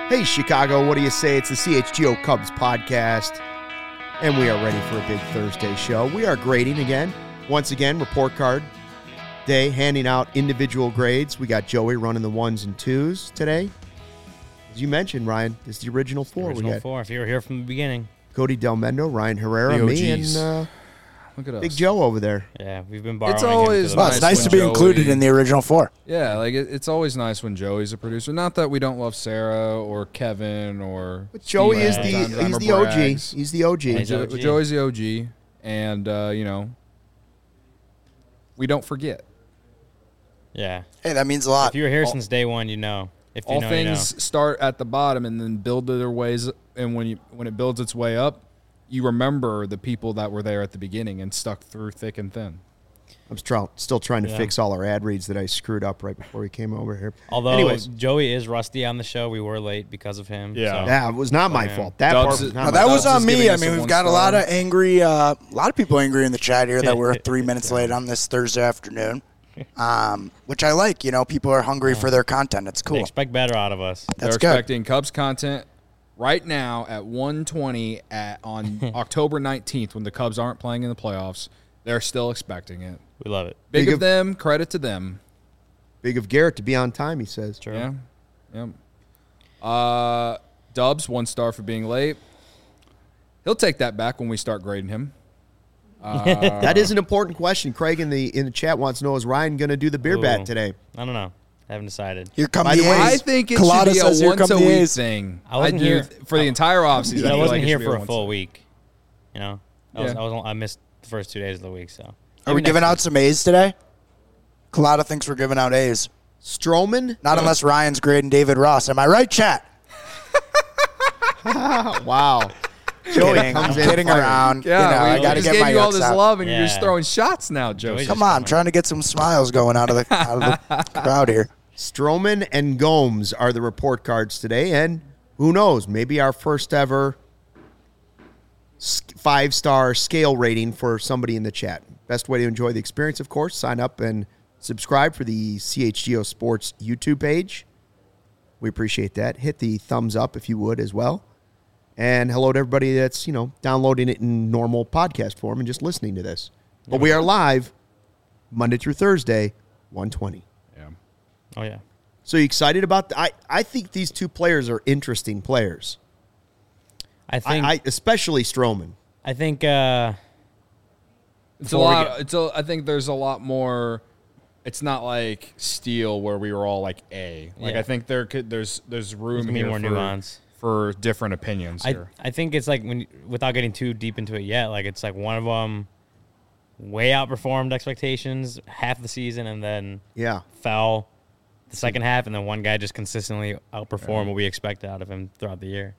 Hey, Chicago, what do you say? It's the CHGO Cubs podcast, and we are ready for a big Thursday show. We are grading again. Once again, report card day, handing out individual grades. We got Joey running the ones and twos today. As you mentioned, Ryan, this is the original four. Original four, if you were here from the beginning. Cody Delmendo, Ryan Herrera, me, and Look at us. Big Joe over there. Yeah, we've been borrowing. It's always Well, it's nice to be included in the original four. Yeah, like it's always nice when Joey's a producer. Not that we don't love Sarah or Kevin or. But Joey Steve is sometimes, he's or the OG. Braggs. He's the OG. He's OG. Joey's the OG, and we don't forget. Yeah. Hey, that means a lot. If you were here since day one, you know. If you All know, things you know. start at the bottom and then build their ways. And when it builds its way up, you remember the people that were there at the beginning and stuck through thick and thin. I'm still trying to Yeah. fix all our ad reads that I screwed up right before we came over here. Although Anyways, Joey is rusty on the show, we were late because of him. Yeah. So. yeah, it was not my Yeah. fault. That Dubs part is- was not Now, my that fault. was Dubs on is me. giving I us mean, a we've one got a star. lot of angry, a lot of people angry in the chat here that we're 3 minutes late on this Thursday afternoon, which I like. You know, people are hungry for their content. It's They cool. expect better out of us. That's They're good. expecting Cubs content right now at 1:20 on October 19th when the Cubs aren't playing in the playoffs. They're still expecting it. We love it. Big Big of of- them, credit to them. Big of Garrett to be on time, he says. True. Yeah. Dubs, 1 star for being late. He'll take that back when we start grading him. That is an important question. Craig in the chat wants to know, is Ryan going to do the beer Ooh. bat today? I don't know. I haven't decided. Here come By the the way, A's. I think it Colada should be says, a "Here come the once-a-week A's." thing. I wasn't do here for the entire offseason. I feel wasn't like it here should be for a once full week. You know? Yeah. I missed the first 2 days of the week, so. Are we Maybe giving next out some A's today? Colada thinks we're giving out A's. Stroman? Not unless Ryan's grading David Ross. Am I right, chat? Wow. Joey Kidding. comes I'm in kidding fired. around. Yeah, I we got to just get gave my you all yucks this out. love, and you're Yeah. just throwing shots now, Joe. Joey's Come on, I'm trying to get some smiles going out of the crowd here. Stroman and Gomes are the report cards today, and who knows, maybe our first ever 5-star scale rating for somebody in the chat. Best way to enjoy the experience, of course, sign up and subscribe for the CHGO Sports YouTube page. We appreciate that. Hit the thumbs up if you would as well. And hello to everybody that's, downloading it in normal podcast form and just listening to this. But we are live Monday through Thursday, 1:20. Yeah. Oh, yeah. So you excited about I think these two players are interesting players. I think Especially Stroman. I think It's a Before we lot. I think there's a lot more. It's not like Steele where we were all like A. Like Yeah. I think there's room gonna be here more for, nuance. for different opinions here. I think it's like without getting too deep into it yet, like it's like one of them way outperformed expectations half the season and then Yeah. fell the second half, and then one guy just consistently outperformed what we expected out of him throughout the year.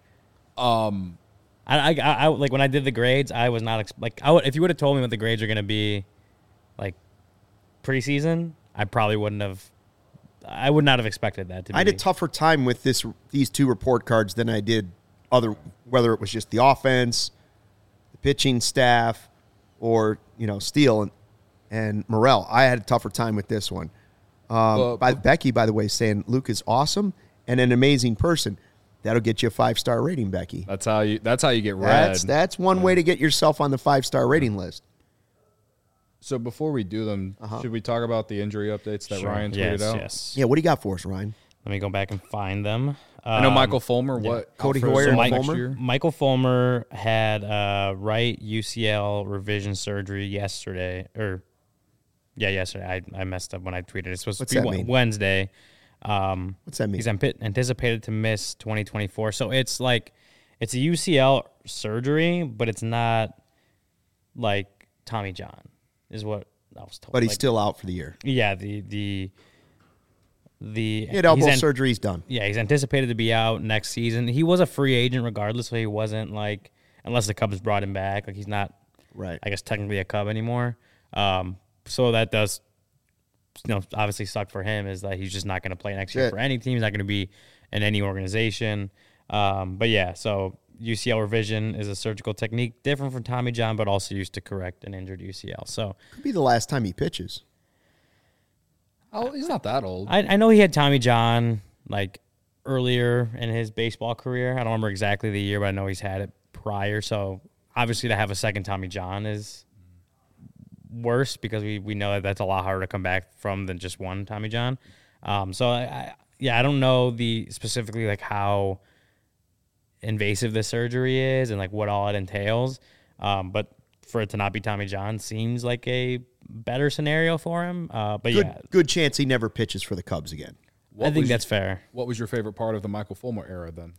I like when I did the grades, I was not if you would have told me what the grades are going to be like preseason, I probably wouldn't have. I would not have expected that to be. I had a tougher time with these two report cards than I did whether it was just the offense, the pitching staff, or Steele and Morel. I had a tougher time with this one. Becky, by the way, saying Luke is awesome and an amazing person. That'll get you a 5-star rating, Becky. That's how you get read. That's one way to get yourself on the 5-star rating list. So before we do them, should we talk about the injury updates that Sure. Ryan tweeted out? Yes. Yeah, what do you got for us, Ryan? Let me go back and find them. I know Michael Fulmer. What Cody out for Hoyer and next Fulmer? year? Michael Fulmer had right UCL revision surgery yesterday. Yesterday. I messed up when I tweeted. It's supposed What's to that be mean? Wednesday. What's that mean? He's anticipated to miss 2024. So it's like it's a UCL surgery, but it's not like Tommy John is what I was told. But he's Like, still out for the year. yeah, the He had elbow surgery. He's done. Yeah, he's anticipated to be out next season. He was a free agent regardless, so he wasn't like, unless the Cubs brought him back, like he's not, Right. I guess, technically a Cub anymore. So that does, obviously suck for him is that he's just not going to play next year Shit. for any team. He's not going to be in any organization. But yeah, so UCL revision is a surgical technique different from Tommy John, but also used to correct an injured UCL. So Could be the last time he pitches. Oh, he's not that old. I know he had Tommy John like earlier in his baseball career. I don't remember exactly the year, but I know he's had it prior. So obviously to have a second Tommy John is worse because we know that that's a lot harder to come back from than just one Tommy John. So I don't know specifically like how invasive the surgery is and like what all it entails. But for it to not be Tommy John seems like a better scenario for him. But good chance he never pitches for the Cubs again. I think that's fair. What was your favorite part of the Michael Fulmer era then?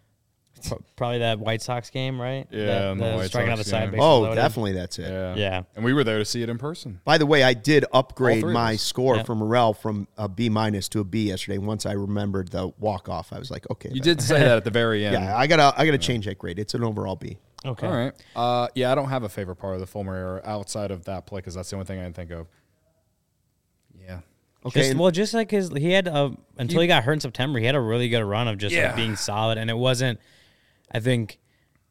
Probably that White Sox game, right? Yeah, the White striking Sox out the side game. base. Oh, loaded. definitely that's it. Yeah. And we were there to see it in person. By the way, I did upgrade All three of my us. score Yeah. from Morel from a B- to a B yesterday. Once I remembered the walk off, I was like, okay. You did say that at the very end. Yeah, I gotta change that grade. It's an overall B. Okay. All right. I don't have a favorite part of the Fulmer era outside of that play because that's the only thing I can think of. Yeah. Okay. Just like he had until he got hurt in September, he had a really good run of just like being solid, and it wasn't. I think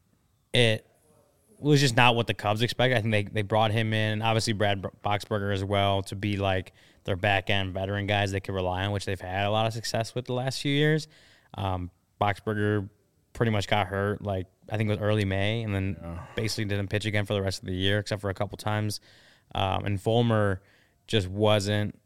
it was just not what the Cubs expected. I think they brought him in, obviously Brad Boxberger as well, to be like their back end veteran guys they could rely on, which they've had a lot of success with the last few years. Boxberger pretty much got hurt, like I think it was early May, and then basically didn't pitch again for the rest of the year, except for a couple times. And Fulmer just wasn't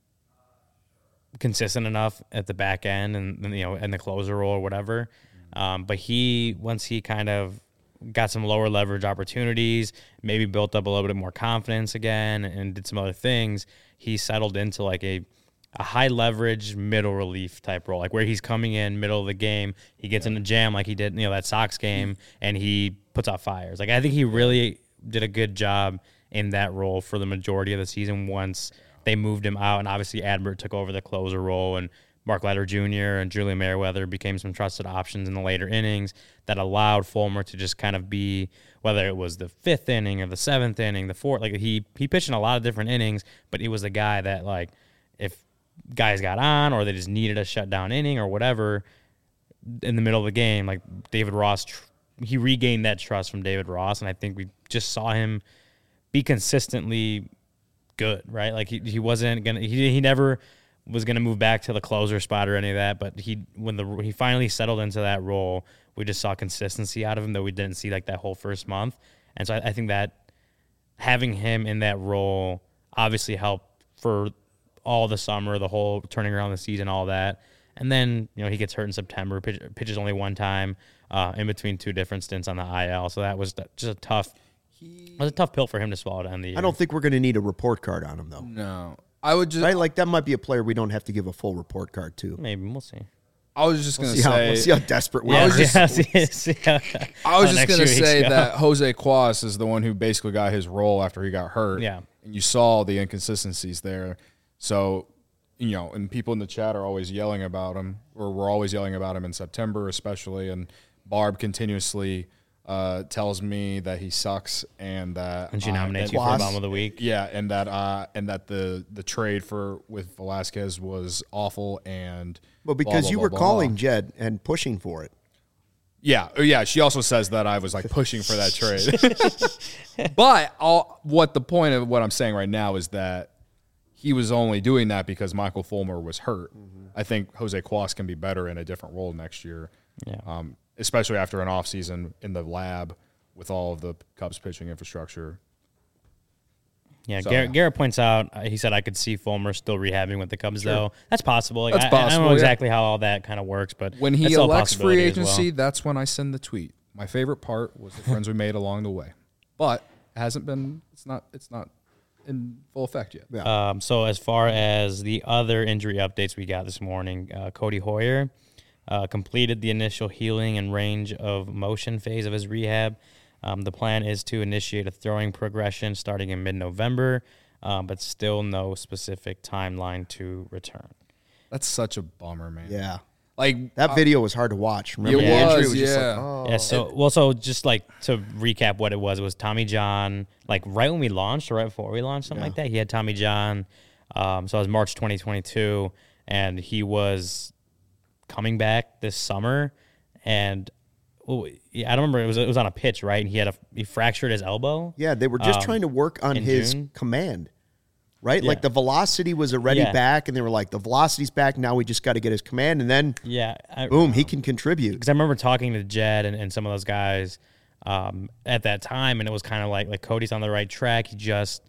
consistent enough at the back end and in the closer role or whatever. But once he kind of got some lower leverage opportunities, maybe built up a little bit more confidence again and did some other things, he settled into like a high leverage middle relief type role, like where he's coming in middle of the game, he gets in the jam like he did, that Sox game, and he puts out fires. Like I think he really did a good job in that role for the majority of the season once they moved him out, and obviously Adbert took over the closer role, and Mark Leiter Jr. and Julian Merriweather became some trusted options in the later innings that allowed Fulmer to just kind of be, whether it was the fifth inning or the seventh inning, the fourth, like he pitched in a lot of different innings, but he was the guy that like if guys got on or they just needed a shutdown inning or whatever in the middle of the game, like David Ross, he regained that trust from David Ross, and I think we just saw him be consistently good, right? Like he wasn't gonna, he never was going to move back to the closer spot or any of that, but when he finally settled into that role, we just saw consistency out of him that we didn't see like that whole first month. And so I think that having him in that role obviously helped for all the summer, the whole turning around the season, all that. And then, he gets hurt in September, pitches only one time in between two different stints on the IL. So that was just a tough pill for him to swallow to end the year. I don't think we're going to need a report card on him though. No. I would just Right, like that might be a player we don't have to give a full report card to. Maybe we'll see. I was just going to We'll see say how desperate we I are. was just- I was just next going to 2 weeks say ago. that Jose Cuas is the one who basically got his role after he got hurt. Yeah. And you saw the inconsistencies there. So, and people in the chat are always yelling about him, or we're always yelling about him in September especially, and Barb continuously tells me that he sucks and that And she nominates you for Cuas. Bomb of the Week. yeah, and that the trade with Velasquez was awful and Well, blah, because blah, you blah, were blah, calling blah. Jed and pushing for it. Yeah. She also says that I was like pushing for that trade. But what the point of what I'm saying right now is that he was only doing that because Michael Fulmer was hurt. Mm-hmm. I think Jose Cuas can be better in a different role next year. Yeah. Especially after an offseason in the lab with all of the Cubs pitching infrastructure. Yeah, So- Garrett points out, he said, I could see Fulmer still rehabbing with the Cubs, though. That's possible. Like, That's I don't possible, know yeah. exactly how all that kind of works, but When he that's still a elects free possibility as well. agency, that's when I send the tweet. My favorite part was the friends we made along the way. But it hasn't been, it's not in full effect yet. Yeah. So as far as the other injury updates we got this morning, Cody Hoyer completed the initial healing and range of motion phase of his rehab. The plan is to initiate a throwing progression starting in mid-November, but still no specific timeline to return. That's such a bummer, man. Yeah. Like That video was hard to watch. Remember It the injury was, just yeah. like, oh. Yeah, so just like to recap what it was Tommy John, like right when we launched or right before we launched, something like that, he had Tommy John. So it was March 2022, and he was coming back this summer, and I don't remember, it was on a pitch, right? And he fractured his elbow. Yeah, they were just trying to work on in his June? command. right? Yeah. Like the velocity was already back, and they were like, the velocity's back. Now we just got to get his command, and then boom, he can contribute. Because I remember talking to Jed and some of those guys at that time, and it was kind of like Cody's on the right track. He just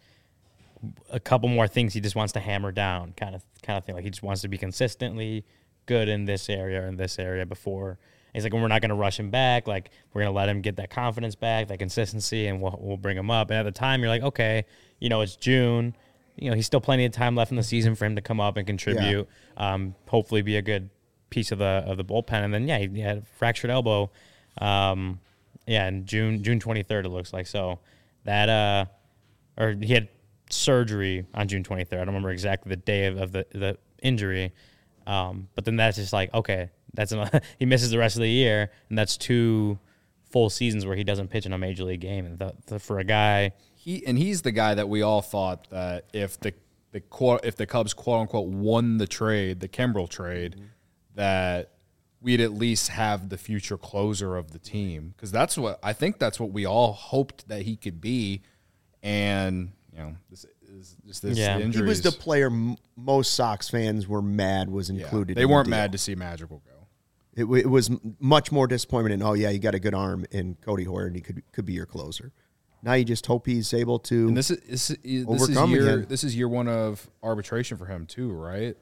a couple more things he just wants to hammer down, kind of thing. Like he just wants to be consistently good in this area and this area before. He's like, we're not going to rush him back. Like, we're going to let him get that confidence back, that consistency, and we'll bring him up. And at the time, you're like, okay, it's June. He's still plenty of time left in the season for him to come up and contribute. Hopefully, be a good piece of the bullpen. And then he had a fractured elbow. In June 23rd, it looks like. So that or he had surgery on June 23rd. I don't remember exactly the day of the injury. But then that's just like, okay, he misses the rest of the year, and that's 2 full seasons where he doesn't pitch in a major league game. And for a guy, he's the guy that we all thought that if the Cubs quote unquote won the trade, the Kimbrel trade, that we'd at least have the future closer of the team, because that's what we all hoped that he could be, and this injuries. He was the player most Sox fans were mad was included. They weren't mad to see Madrigal go. It was much more disappointment in, you got a good arm in Cody Hoyer, and he could be your closer. Now you just hope he's able to overcome again. This is year 1 of arbitration for him too, right?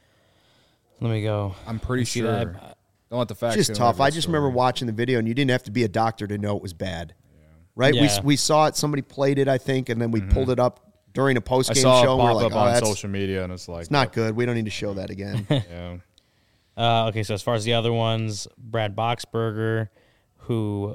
Let me go. I'm pretty sure. Don't let the facts. It's just tough. I just remember watching the video, and you didn't have to be a doctor to know it was bad. Right? Yeah. We saw it. Somebody played it, I think, and then we pulled it up during a post-game show. I saw it pop up on social media, and it's not good. We don't need to show that again. Okay, so as far as the other ones, Brad Boxberger, who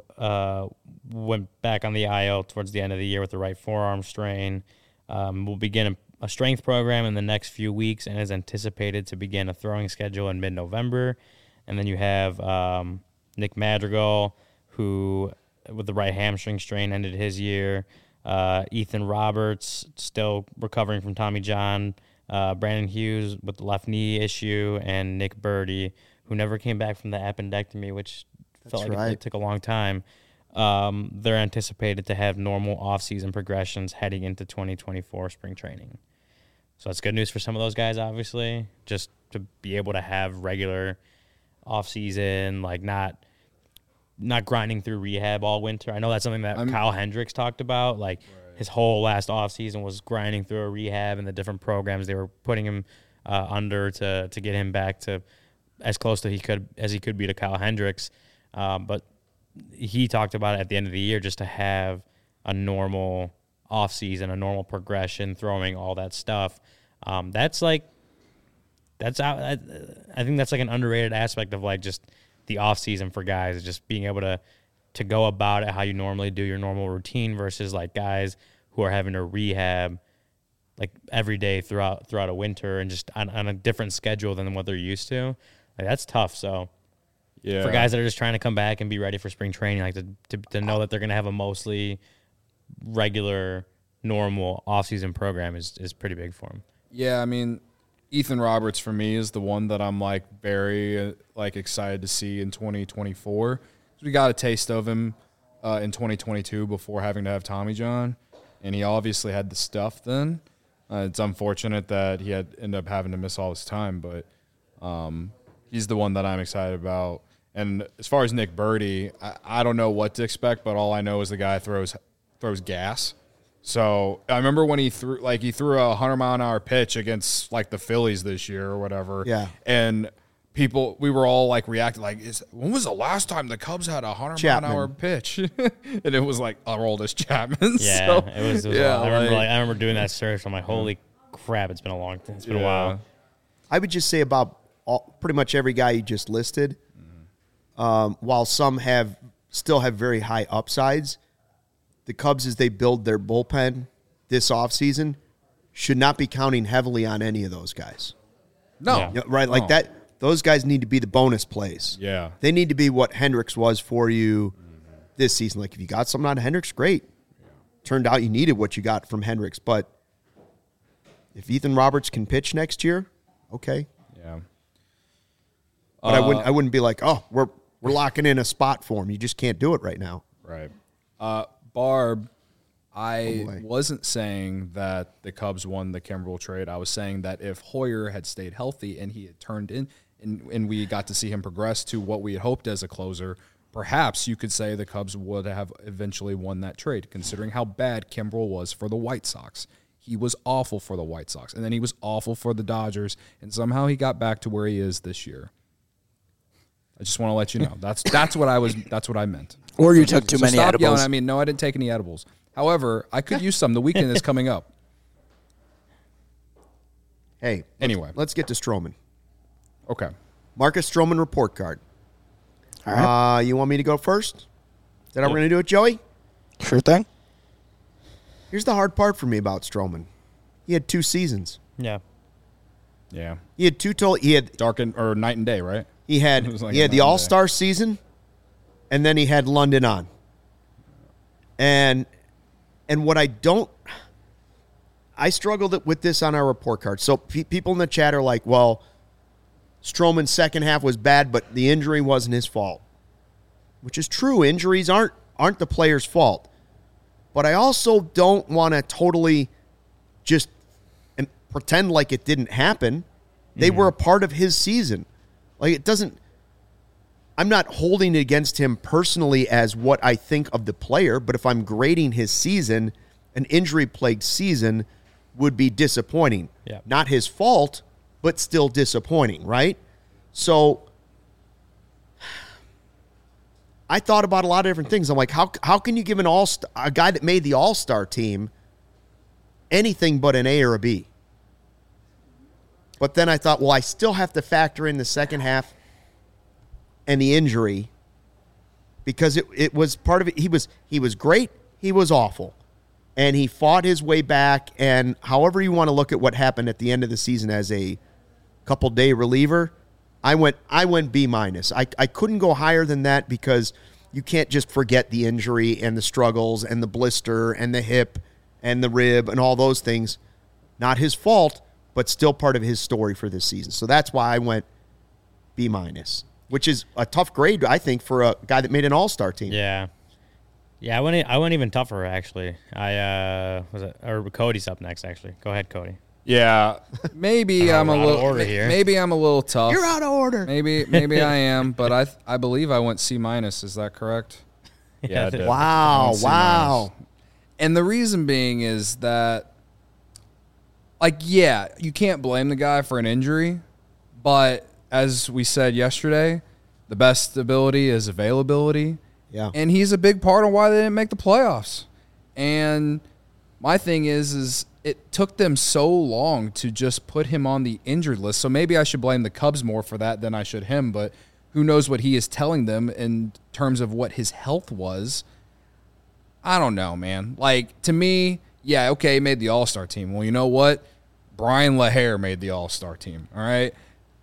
went back on the IL towards the end of the year with the right forearm strain, will begin a strength program in the next few weeks and is anticipated to begin a throwing schedule in mid-November. And then you have Nick Madrigal, who with the right hamstring strain ended his year. Ethan Roberts still recovering from Tommy John. Brandon Hughes with the left knee issue, and Nick Birdie, who never came back from the appendectomy, which felt like it took a long time. They're anticipated to have normal off-season progressions heading into 2024 spring training. So that's good news for some of those guys, obviously, just to be able to have regular off-season, like not grinding through rehab all winter. I know that's something that Kyle Hendricks talked about, his whole last offseason was grinding through a rehab and the different programs they were putting him under to get him back to as close to as he could be to Kyle Hendricks. But he talked about it at the end of the year just to have a normal offseason, a normal progression, throwing all that stuff. I think that's like an underrated aspect of just the offseason for guys, just being able to go about it how you normally do your normal routine versus guys who are having to rehab every day throughout a winter and just on a different schedule than what they're used to. That's tough. So for guys that are just trying to come back and be ready for spring training, to know that they're going to have a mostly regular, normal offseason program is pretty big for them. Yeah, I mean, Ethan Roberts for me is the one that I'm very excited to see in 2024. We got a taste of him in 2022 before having to have Tommy John, and he obviously had the stuff then. It's unfortunate that he ended up having to miss all his time, but he's the one that I'm excited about. And as far as Nick Birdie, I don't know what to expect, but all I know is the guy throws gas. So I remember when he threw a 100-mile-an-hour pitch against the Phillies this year or whatever. Yeah. And we were all reacting when was the last time the Cubs had a 100-mile-an-hour pitch? And it was Aroldis Chapman. Yeah, so, it was I remember doing that search. I'm like, holy crap, it's been a long time. It's been a while. I would just say about pretty much every guy you just listed, while some still have very high upsides, the Cubs, as they build their bullpen this offseason, should not be counting heavily on any of those guys. No. Right? That. Those guys need to be the bonus plays. Yeah. They need to be what Hendricks was for you this season. If you got something out of Hendricks, great. Turned out you needed what you got from Hendricks. But if Ethan Roberts can pitch next year, okay. Yeah. But I wouldn't be we're locking in a spot for him. You just can't do it right now. Right. Barb, I wasn't saying that the Cubs won the Kimbrel trade. I was saying that if Hoyer had stayed healthy and he had turned in and we got to see him progress to what we had hoped as a closer, perhaps you could say the Cubs would have eventually won that trade, considering how bad Kimbrel was for the White Sox. He was awful for the White Sox, and then he was awful for the Dodgers, and somehow he got back to where he is this year. I just want to let you know. That's what I meant. Or you took too many stop edibles. Yelling at me. No, I didn't take any edibles. However, I could use some. The weekend is coming up. Hey, anyway, let's get to Stroman. Okay. Marcus Stroman report card. All right. You want me to go first? Is that how we're going to do it, Joey? Sure thing. Here's the hard part for me about Stroman. He had 2 seasons. Yeah. Yeah. He had 2 total. He had or night and day, right? He had the All-Star season, and then he had London on. And what I struggled with this on our report card. So people in the chat are like, well, Stroman's second half was bad, but the injury wasn't his fault, which is true. Injuries aren't the player's fault. But I also don't want to totally just pretend like it didn't happen. They were a part of his season. Like, it doesn't – I'm not holding it against him personally as what I think of the player, but if I'm grading his season, an injury-plagued season would be disappointing. Yeah. Not his fault, but still disappointing, right? So I thought about a lot of different things. I'm like, how can you give a guy that made the All-Star team anything but an A or a B? But then I thought, well, I still have to factor in the second half and the injury because it was part of it. He was great. He was awful. And he fought his way back. And however you want to look at what happened at the end of the season as a couple-day reliever, I went B-. I couldn't go higher than that because you can't just forget the injury and the struggles and the blister and the hip and the rib and all those things. Not his fault, but still part of his story for this season. So that's why I went B-, which is a tough grade, I think, for a guy that made an All-Star team. Yeah. Yeah, I went even tougher, actually. Or Cody's up next, actually. Go ahead, Cody. Yeah, maybe I'm a little here. Maybe I'm a little tough. You're out of order. Maybe I am, but I believe I went C-. Is that correct? Yeah, I did. Wow. And the reason being is that, like, yeah, you can't blame the guy for an injury, but as we said yesterday, the best ability is availability. Yeah. And he's a big part of why they didn't make the playoffs. And my thing is it took them so long to just put him on the injured list. So maybe I should blame the Cubs more for that than I should him, but who knows what he is telling them in terms of what his health was. I don't know, man. Like, to me, yeah, okay, he made the All-Star team. Well, you know what? Brian LaHair made the All-Star team, all right?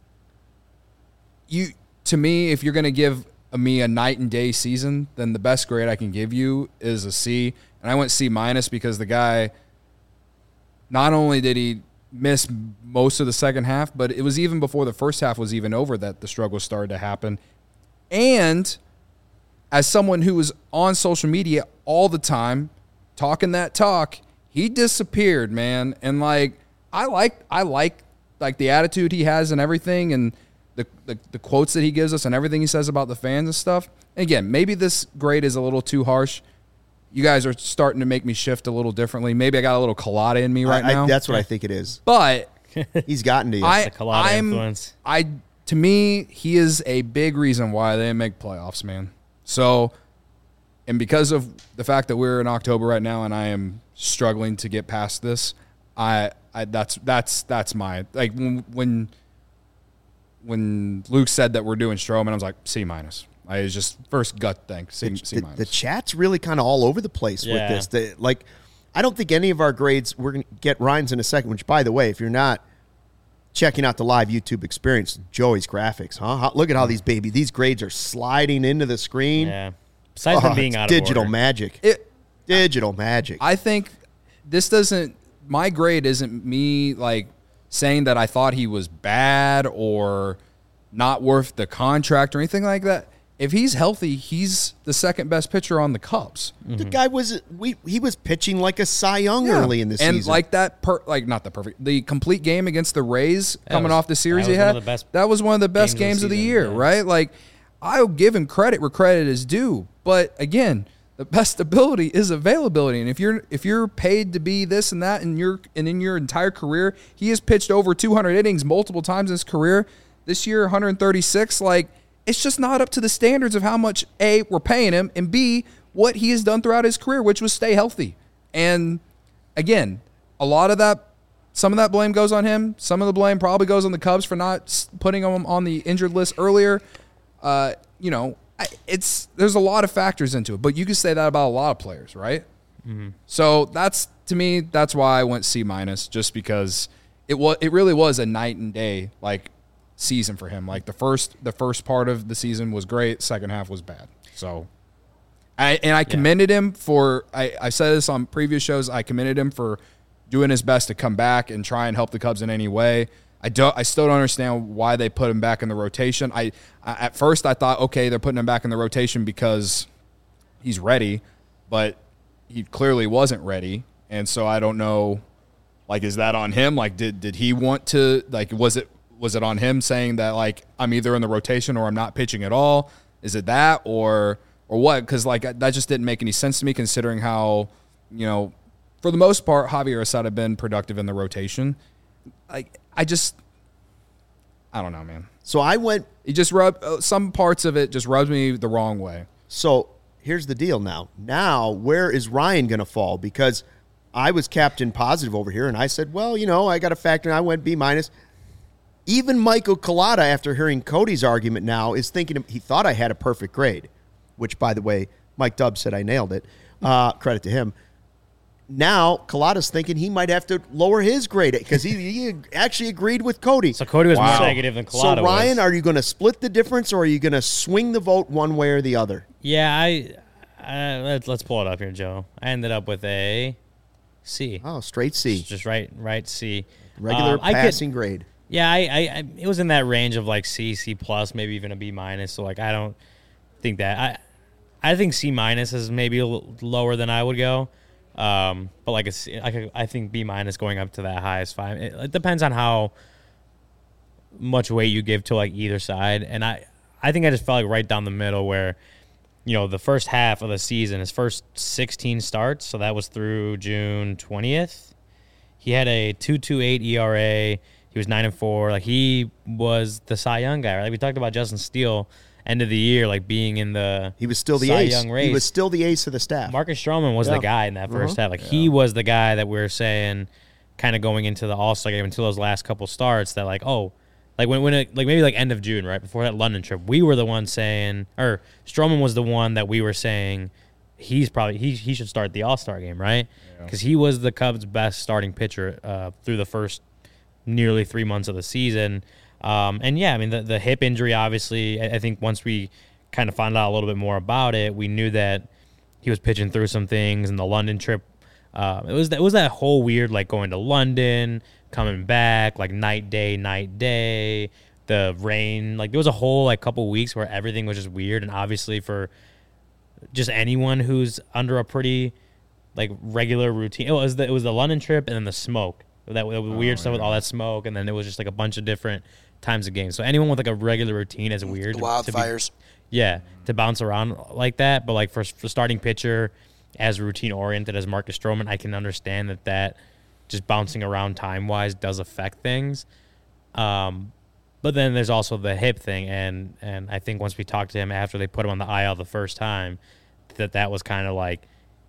To me, if you're going to give me a night and day season, then the best grade I can give you is a C. And I went C- because the guy, not only did he miss most of the second half, but it was even before the first half was even over that the struggles started to happen. And as someone who was on social media all the time, talking that talk, he disappeared, man. And I like the attitude he has and everything, and the quotes that he gives us and everything he says about the fans and stuff. And again, maybe this grade is a little too harsh. You guys are starting to make me shift a little differently. Maybe I got a little Colada in me right now. That's what I think it is. But he's gotten to you. The Colada influence. To me, he is a big reason why they didn't make playoffs, man. So, and because of the fact that we're in October right now and I am struggling to get past this, that's my, like, when Luke said that we're doing Stroman, I was like, C-. I was just first gut thing, C-. The chat's really kind of all over the place with this. I don't think any of our grades, we're going to get Ryan's in a second, which, by the way, if you're not checking out the live YouTube experience, Joey's graphics, huh? Look at how these grades are sliding into the screen. Yeah. Besides them being out of digital order. magic. Digital magic. I think my grade isn't me, like, saying that I thought he was bad or not worth the contract or anything like that. if he's healthy, he's the second best pitcher on the Cubs. The guy was he was pitching like a Cy Young early in the season. And like that, the complete game against the Rays coming off the series he that had, was that was one of the best games of the year, right? Like, I'll give him credit where credit is due. But again, the best ability is availability. And if you're paid to be this and that in your entire career, he has pitched over 200 innings multiple times in his career. This year, 136, like, it's just not up to the standards of how much, A, we're paying him, and B, what he has done throughout his career, which was stay healthy. And again, some of that blame goes on him. Some of the blame probably goes on the Cubs for not putting him on the injured list earlier. There's a lot of factors into it, but you can say that about a lot of players, right? Mm-hmm. So to me, that's why I went C-, just because it really was a night and day, like, season for him. Like, the first part of the season was great, second half was bad. So I commended him for I said this on previous shows, I commended him for doing his best to come back and try and help the Cubs in any way. I still don't understand why they put him back in the rotation. At first I thought, okay, they're putting him back in the rotation because he's ready, but he clearly wasn't ready. And so I don't know, like, is that on him? Like, did he want to, like, was it on him saying that, like, I'm either in the rotation or I'm not pitching at all? Is it that or what? Because, like, that just didn't make any sense to me, considering how, for the most part, Javier Assad had been productive in the rotation. Like, I don't know, man. So I went. He just some parts of it just rubs me the wrong way. So here's the deal now. Now, where is Ryan going to fall? Because I was captain positive over here, and I said, well, I got a factor, and I went B-. Even Michael Collada, after hearing Cody's argument now, is thinking he thought I had a perfect grade, which, by the way, Mike Dubb said I nailed it. Credit to him. Now, Collada's thinking he might have to lower his grade because he actually agreed with Cody. So Cody was more negative than Collada. So, Ryan, are you going to split the difference, or are you going to swing the vote one way or the other? Yeah, let's pull it up here, Joe. I ended up with a C. Oh, straight C. Just right C. Regular passing grade. Yeah, I it was in that range of like C+, maybe even a B-. So, like, I don't think that. I think C- is maybe a little lower than I would go. But like I think B- going up to that high is fine. It depends on how much weight you give to, like, either side. And I think I just felt like right down the middle where, the first half of the season, his first 16 starts, so that was through June 20th. He had a 2.28 ERA. He was 9-4. Like, he was the Cy Young guy, right? Like, we talked about Justin Steele end of the year, like, being in the he was still the Cy ace. Young race. He was still the ace of the staff. Marcus Stroman was the guy in that first half. Like, he was the guy that we were saying, kind of going into the All-Star game until those last couple starts, that, like, like when it, like, maybe like end of June, right before that London trip, we were the one saying, or Stroman was the one that we were saying he should start the All-Star game, right? Because he was the Cubs' best starting pitcher through the first nearly 3 months of the season. And yeah, I mean, the hip injury, obviously, I think once we kind of found out a little bit more about it, we knew that he was pitching through some things. And the London trip, it was that whole weird, like, going to London, coming back, like, night, day, the rain. Like, there was a whole, like, couple weeks where everything was just weird. And obviously for just anyone who's under a pretty, like, regular routine, it was the London trip and then the smoke. That weird stuff with all that smoke, and then it was just, like, a bunch of different times of games. So anyone with, like, a regular routine is weird. The wildfires. To bounce around like that. But, like, for starting pitcher as routine-oriented as Marcus Stroman, I can understand that just bouncing around time-wise does affect things. But then there's also the hip thing, and I think once we talked to him after they put him on the IL the first time, that was kind of like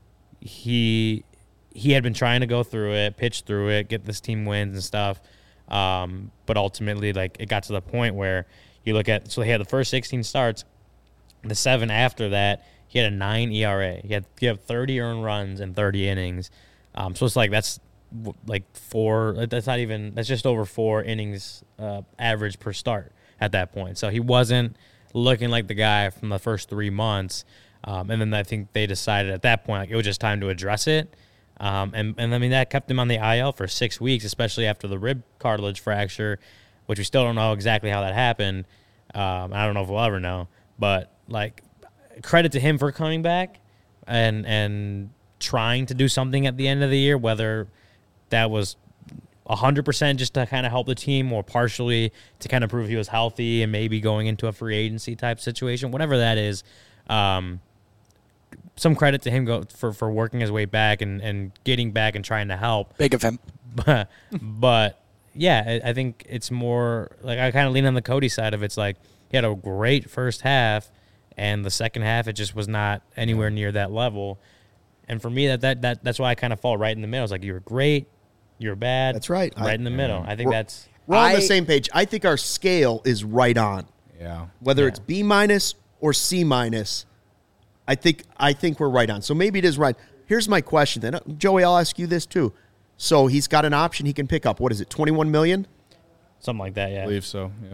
he had been trying to go through it, pitch through it, get this team wins and stuff. But ultimately, like, it got to the point where you look at, so he had the first 16 starts, the 7 after that, he had a 9 ERA. He had 30 earned runs in 30 innings. So it's like, that's like that's just over 4 innings average per start at that point. So he wasn't looking like the guy from the first 3 months. And then I think they decided at that point, like, it was just time to address it. And I mean, that kept him on the IL for 6 weeks, especially after the rib cartilage fracture, which we still don't know exactly how that happened. I don't know if we'll ever know, but like, credit to him for coming back and trying to do something at the end of the year, whether that was 100% just to kind of help the team or partially to kind of prove he was healthy and maybe going into a free agency type situation, whatever that is. Some credit to him for working his way back and getting back and trying to help. Big of him. But yeah, I think it's more like I kind of lean on the Cody side of it. It's like he had a great first half, and the second half it just was not anywhere near that level. And for me, that's why I kind of fall right in the middle. It's like you were great, you were bad. That's right. Right in the middle. I think we're on the same page. I think our scale is right on. Yeah. Whether it's B- or C-, I think we're right on. So maybe it is right. Here's my question then. Joey, I'll ask you this too. So he's got an option he can pick up. What is it, $21 million? Something like that, yeah. I believe so, yeah.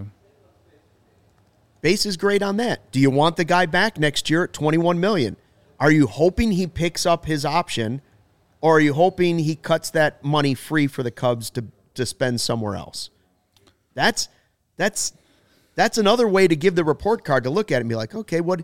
Base is great on that. Do you want the guy back next year at $21 million? Are you hoping he picks up his option, or are you hoping he cuts that money free for the Cubs to spend somewhere else? That's another way to give the report card to look at it and be like, okay, what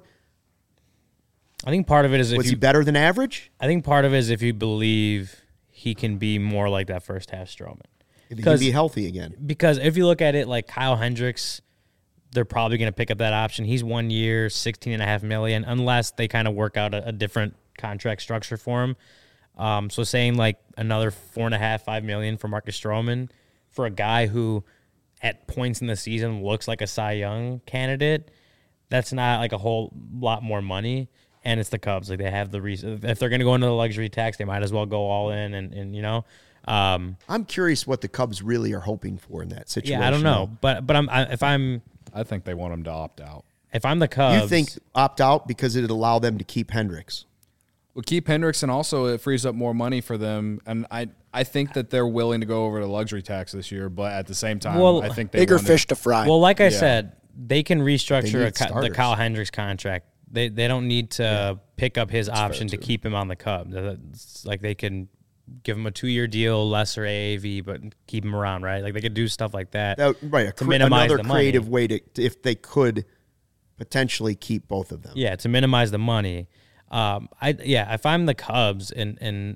I think part of it is was he better than average? I think part of it is if you believe he can be more like that first half Stroman. If he can be healthy again. Because if you look at it like Kyle Hendricks, they're probably going to pick up that option. He's 1 year, $16.5 million, unless they kind of work out a different contract structure for him. So saying like another $4.5, $5 million for Marcus Stroman for a guy who at points in the season looks like a Cy Young candidate, that's not like a whole lot more money. And it's the Cubs. Like they have the reason. If they're going to go into the luxury tax, they might as well go all in. And you know, I'm curious what the Cubs really are hoping for in that situation. Yeah, I don't know. But I think they want him to opt out. If I'm the Cubs, you think opt out because it'd allow them to keep Hendricks? Well, keep Hendricks, and also it frees up more money for them. And I think that they're willing to go over the luxury tax this year, but at the same time, I think they bigger fish to fry. Well, like I said, they can restructure the Kyle Hendricks contract. They don't need to pick up his option to keep him on the Cubs. It's like they can give him a 2-year deal, lesser AAV, but keep him around, right? Like they could do stuff like that. Right, to minimize another the creative money. way to if they could potentially keep both of them. Yeah, to minimize the money. If I'm the Cubs and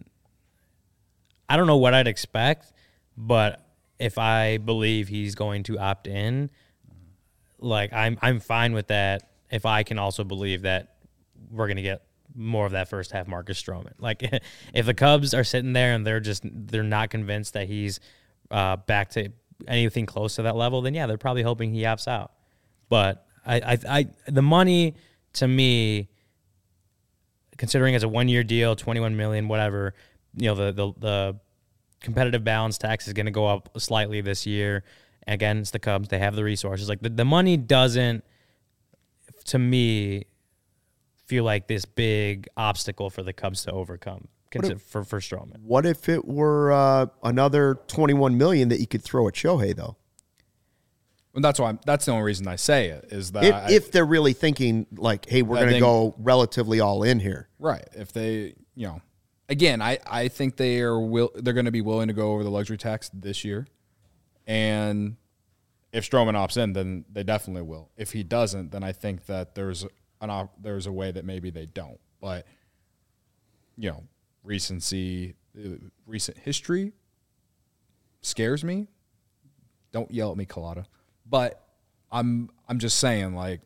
I don't know what I'd expect, but if I believe he's going to opt in, like I'm fine with that. If I can also believe that we're going to get more of that first half Marcus Stroman. Like if the Cubs are sitting there and they're not convinced that he's back to anything close to that level, then yeah, they're probably hoping he opts out. But I the money to me, considering it's a 1-year deal, $21 million, whatever, you know, the competitive balance tax is going to go up slightly this year. Again, it's the Cubs. They have the resources. Like the money doesn't, to me, feel like this big obstacle for the Cubs to overcome for Stroman. What if it were another $21 million that you could throw at Shohei, though? Well, that's the only reason I say it is that if they're really thinking like, hey, we're going to go relatively all in here, right? If they, you know, again, I think they're going to be willing to go over the luxury tax this year, and if Stroman opts in, then they definitely will. If he doesn't, then I think that there's a way that maybe they don't. But you know, recent history scares me. Don't yell at me, Collada. But I'm just saying, like,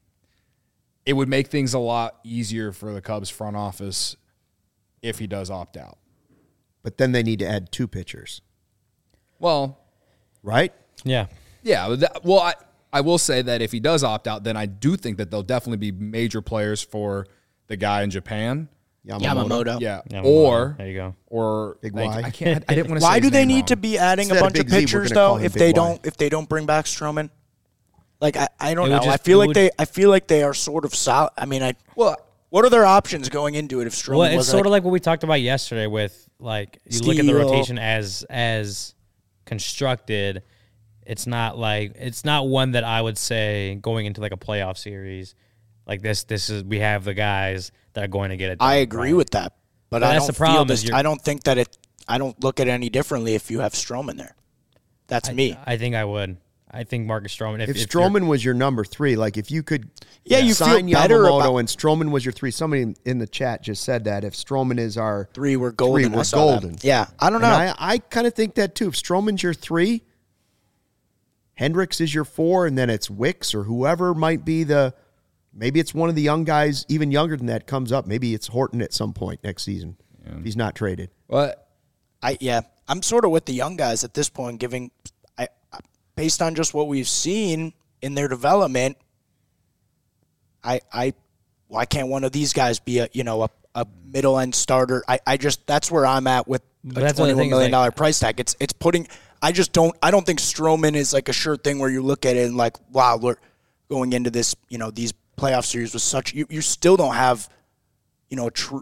it would make things a lot easier for the Cubs front office if he does opt out. But then they need to add 2 pitchers. Well, right? Yeah. Yeah. I will say that if he does opt out, then I do think that there'll definitely be major players for the guy in Japan. Yamamoto. Yeah. Yamamoto. Or there you go. Or Big Y. I didn't want to say Why his do they name need wrong. to be adding Instead a of bunch of Big Z, we're pitchers gonna call though him if Big they Y. don't bring back Stroman? Like I don't It know. would just- I feel like they are sort of solid. I mean, what are their options going into it if Stroman Well, it's wasn't sort of like what we talked about yesterday with, like, you look at the Steele. rotation as constructed. It's not one that I would say going into like a playoff series like this is, we have the guys that are going to get it done. I agree with that, but I that's don't the problem feel is this. you're- I don't think that I don't look at it any differently if you have Stroman there. That's me. I think I would. I think Marcus Stroman. If Stroman was your number 3, like if you could you sign feel better Yamamoto and Stroman was your 3. Somebody in the chat just said that if Stroman is our 3, we're golden. 3, we're golden. Yeah, I don't know. I kind of think that too. If Stroman's your 3, Hendricks is your 4, and then it's Wicks or whoever might be maybe it's one of the young guys, even younger than that, comes up. Maybe it's Horton at some point next season if he's not traded. But I'm sort of with the young guys at this point, based on just what we've seen in their development. Why can't one of these guys be a middle end starter? That's where I'm at with a $21 million price tag. It's putting. I don't think Stroman is like a sure thing where you look at it and like, wow, we're going into this, these playoff series with such, you still don't have, he's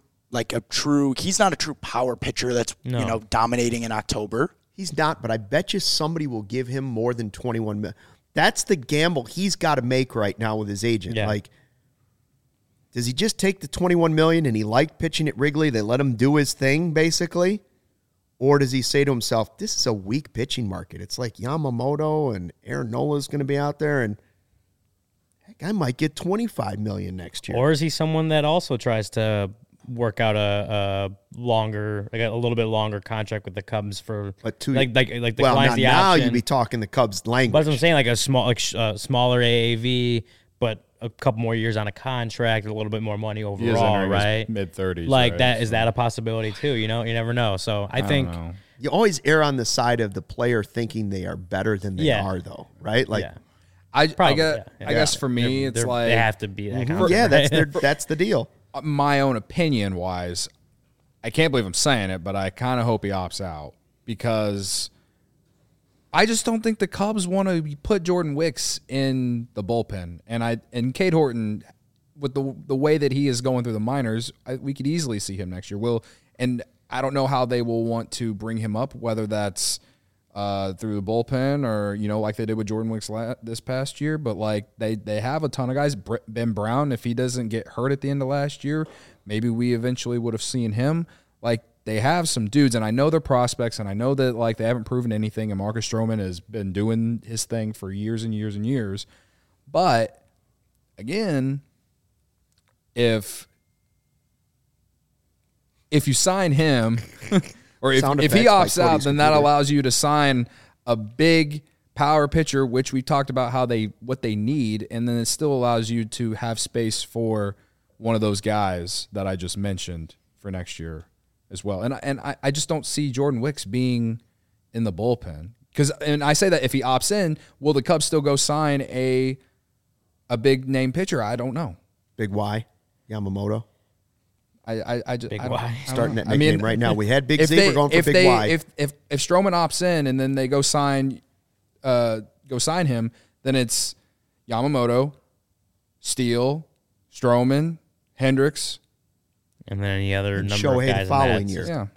not a true power pitcher that's, dominating in October. He's not, but I bet you somebody will give him more than $21 million. That's the gamble he's got to make right now with his agent. Yeah. Like, does he just take the $21 million and he liked pitching at Wrigley? They let him do his thing, basically? Or does he say to himself, this is a weak pitching market. It's like Yamamoto and Aaron Nola's going to be out there, and heck, I might get $25 million next year. Or is he someone that also tries to work out a little bit longer contract with the Cubs for like declines the now option. you'd be talking the Cubs language. But I'm saying like a smaller AAV, but a couple more years on a contract, a little bit more money overall, right? Mid-30s, like right? that. Is that a possibility too? You never know. So I think you always err on the side of the player thinking they are better than they are, though, right? Like, I guess for me, it's like they have to be that kind of that's the deal. My own opinion wise, I can't believe I'm saying it, but I kind of hope he opts out because I just don't think the Cubs want to put Jordan Wicks in the bullpen. And Cade Horton, with the way that he is going through the minors, we could easily see him next year. And I don't know how they will want to bring him up, whether that's through the bullpen or, like they did with Jordan Wicks this past year. But, like, they have a ton of guys. Ben Brown, if he doesn't get hurt at the end of last year, maybe we eventually would have seen him. Like, they have some dudes, and I know they're prospects, and I know that, like, they haven't proven anything, and Marcus Stroman has been doing his thing for years and years and years. But, again, if you sign him or if he opts out, then that allows you to sign a big power pitcher, which we talked about what they need, and then it still allows you to have space for one of those guys that I just mentioned for next year as well. And I just don't see Jordan Wicks being in the bullpen. And I say that if he opts in, will the Cubs still go sign a big name pitcher? I don't know. Big Y, Yamamoto. I just Big Y. Starting that nickname right now. We had Big Z. We're going for Big Y. If Stroman opts in and then they go sign him, then it's Yamamoto, Steele, Stroman, Hendricks, and then any other number Shohei of guys the following in that. year. Yeah.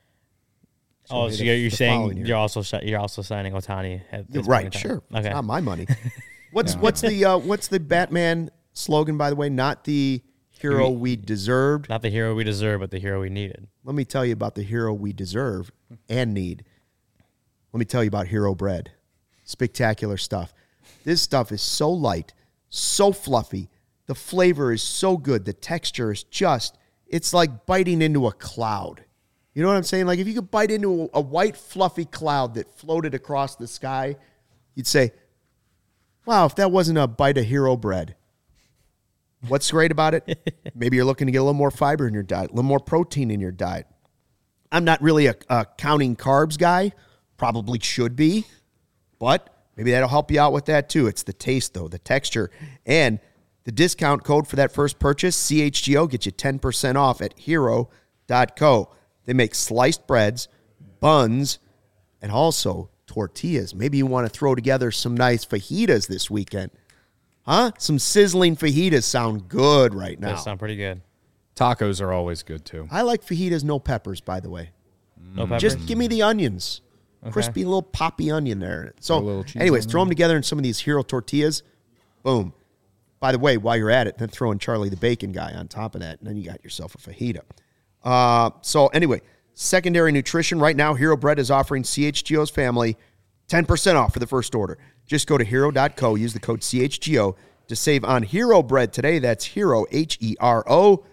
Oh, so you're saying you're also signing Ohtani at this Right, point in time. sure. Okay. It's not my money. What's the Batman slogan, by the way? Not the hero we deserved. Not the hero we deserve, but the hero we needed. Let me tell you about the hero we deserve and need. Let me tell you about Hero Bread. Spectacular stuff. This stuff is so light, so fluffy. The flavor is so good. The texture is it's like biting into a cloud. You know what I'm saying? Like if you could bite into a white, fluffy cloud that floated across the sky, you'd say, wow, if that wasn't a bite of Hero Bread. What's great about it? Maybe you're looking to get a little more fiber in your diet, a little more protein in your diet. I'm not really a counting carbs guy. Probably should be. But maybe that'll help you out with that too. It's the taste, though, the texture. And the discount code for that first purchase, CHGO, gets you 10% off at hero.co. They make sliced breads, buns, and also tortillas. Maybe you want to throw together some nice fajitas this weekend. Huh? Some sizzling fajitas sound good right now. They sound pretty good. Tacos are always good, too. I like fajitas, no peppers, by the way. No peppers? Just give me the onions. Okay. Crispy little poppy onion there. So, anyways, throw them together in some of these Hero tortillas. Boom. By the way, while you're at it, then throw in Charlie the Bacon Guy on top of that, and then you got yourself a fajita. So, anyway, secondary nutrition. Right now, Hero Bread is offering CHGO's family 10% off for the first order. Just go to hero.co, use the code CHGO to save on Hero bread today. That's Hero, HERO.co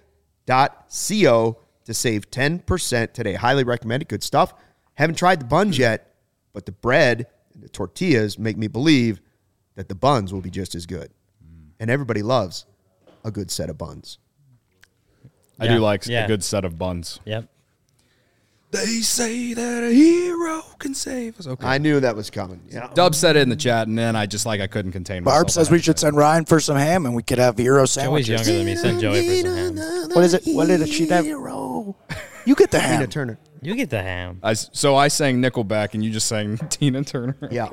to save 10% today. Highly recommend it. Good stuff. Haven't tried the buns yet, but the bread and the tortillas make me believe that the buns will be just as good. And everybody loves a good set of buns. I do like a good set of buns. Yep. They say that a hero can save us. Okay. I knew that was coming. Yeah. Dub said it in the chat, and then I couldn't contain myself. Barb says we should send Ryan for some ham, and we could have hero sandwiches. Joey's younger than me. Send Joey for some ham. What is it? What did she have? You get the ham. Tina Turner. You get the ham. So I sang Nickelback, and you just sang Tina Turner. Yeah.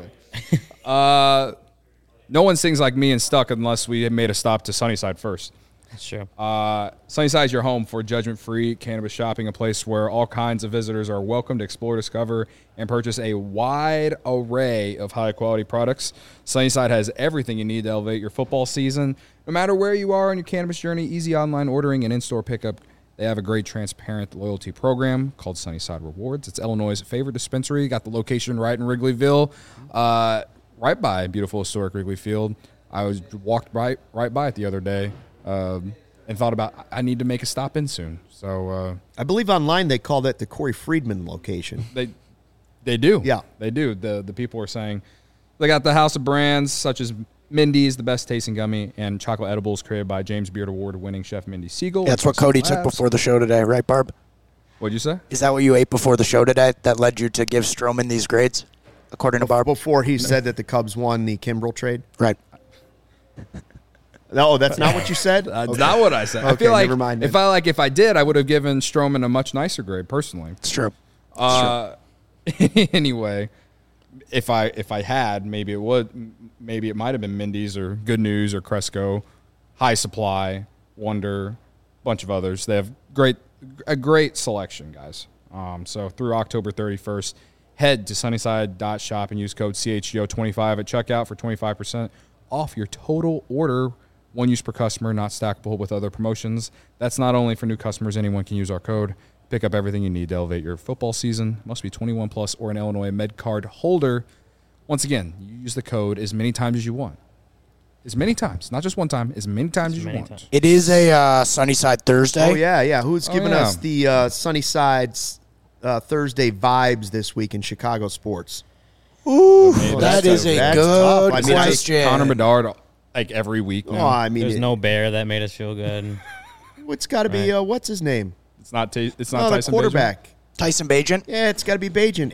No one sings like me and Stuck unless we made a stop to Sunnyside first. That's true. Sunnyside is your home for judgment-free cannabis shopping, a place where all kinds of visitors are welcome to explore, discover, and purchase a wide array of high-quality products. Sunnyside has everything you need to elevate your football season. No matter where you are on your cannabis journey, easy online ordering and in-store pickup. They have a great, transparent loyalty program called Sunnyside Rewards. It's Illinois' favorite dispensary. Got the location right in Wrigleyville, right by beautiful historic Wrigley Field. I walked right by it the other day. And thought about I need to make a stop in soon. So I believe online they call that the Corey Friedman location. They do. Yeah. They do. The people are saying they got the house of brands such as Mindy's, the best tasting gummy, and chocolate edibles created by James Beard Award-winning chef Mindy Siegel. That's what Cody took before the show today, right, Barb? What'd you say? Is that what you ate before the show today that led you to give Stroman these grades, according to Barb? Before he said that the Cubs won the Kimbrel trade? Right. No, that's not what you said? That's not what I said. Okay, I feel like never mind then. if I did, I would have given Stroman a much nicer grade personally. It's true. Anyway, if I had, maybe it might have been Mindy's or Good News or Cresco, High Supply, Wonder, bunch of others. They have a great selection, guys. So through October 31st, head to sunnyside.shop and use code CHGO25 at checkout for 25% off your total order. One use per customer, not stackable with other promotions. That's not only for new customers. Anyone can use our code. Pick up everything you need to elevate your football season. Must be 21 plus or an Illinois Med Card holder. Once again, you use the code as many times as you want. As many times, not just one time, as many times as you want. It is a Sunnyside Thursday. Oh, yeah. Who's giving us the Sunnyside Thursday vibes this week in Chicago sports? Ooh, that is a good question. Connor Bedard, like every week now. Oh, I mean, there's no bear that made us feel good. It's got to be what's his name? It's not Tyson the quarterback. Bagent? Tyson Bagent? Yeah, it's got to be Bagent.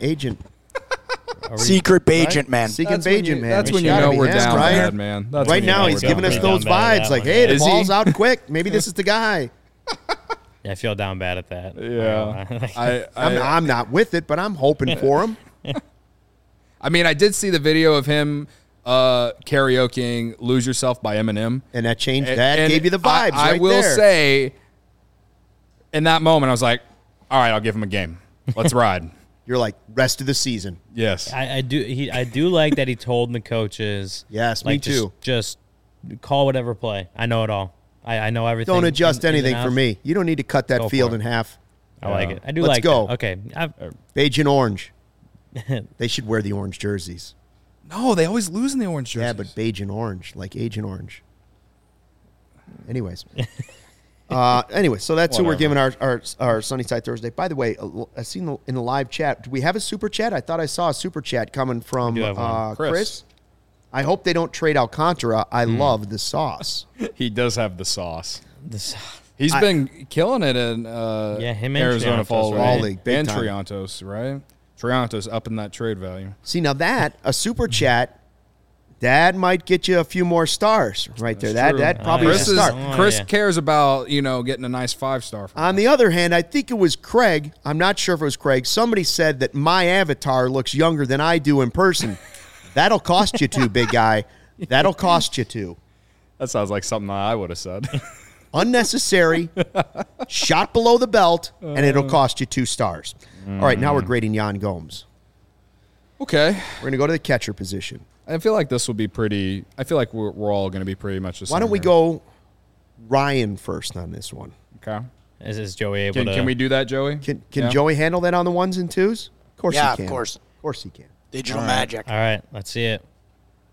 Secret Bagent, man. Secret Bagent, man. That's when you know we're down bad, man. Right now, he's giving us those vibes like, hey, the ball's out quick. Maybe this is the guy. Yeah, I feel down bad at that. Yeah. I'm not with it, but I'm hoping for him. I mean, I did see the video of him karaokeing "Lose Yourself" by Eminem, and that changed. That gave you the vibes. I will say, in that moment, I was like, "All right, I'll give him a game. Let's ride." You're like rest of the season. Yes, I do like that he told the coaches. Yes, like, me too. Just call whatever play. I know it all. I know everything. Don't adjust anything for me. You don't need to cut that field in half. I like it. I do Let's like go. that. Okay. Beige and orange. They should wear the orange jerseys. No, they always lose in the orange jerseys. Yeah, but beige and orange, like Agent Orange. Anyways. So that's who we're giving our Sunnyside Thursday. By the way, I seen in the live chat, do we have a super chat? I thought I saw a super chat coming from Chris. I hope they don't trade Alcantara. I love the sauce. He does have the sauce. He's been killing it in him Arizona Fall League. And Triantos, right? Triantos up in that trade value. See, now that, a super chat, that might get you a few more stars right there. That probably is a start. Chris cares about, getting a nice 5-star. On the other hand, I think it was Craig. I'm not sure if it was Craig. Somebody said that my avatar looks younger than I do in person. That'll cost you 2, big guy. That'll cost you 2. That sounds like something I would have said. Unnecessary, shot below the belt, and it'll cost you 2 stars. All right, now we're grading Yan Gomes. Okay. We're going to go to the catcher position. I feel like this will be pretty – I feel like we're all going to be pretty much the same. Why don't we go Ryan first on this one? Okay. Is Joey able to – Can we do that, Joey? Can Joey handle that on the 1s and 2s? Of course he can. Yeah, of course. Of course he can. Digital magic. All right, let's see it.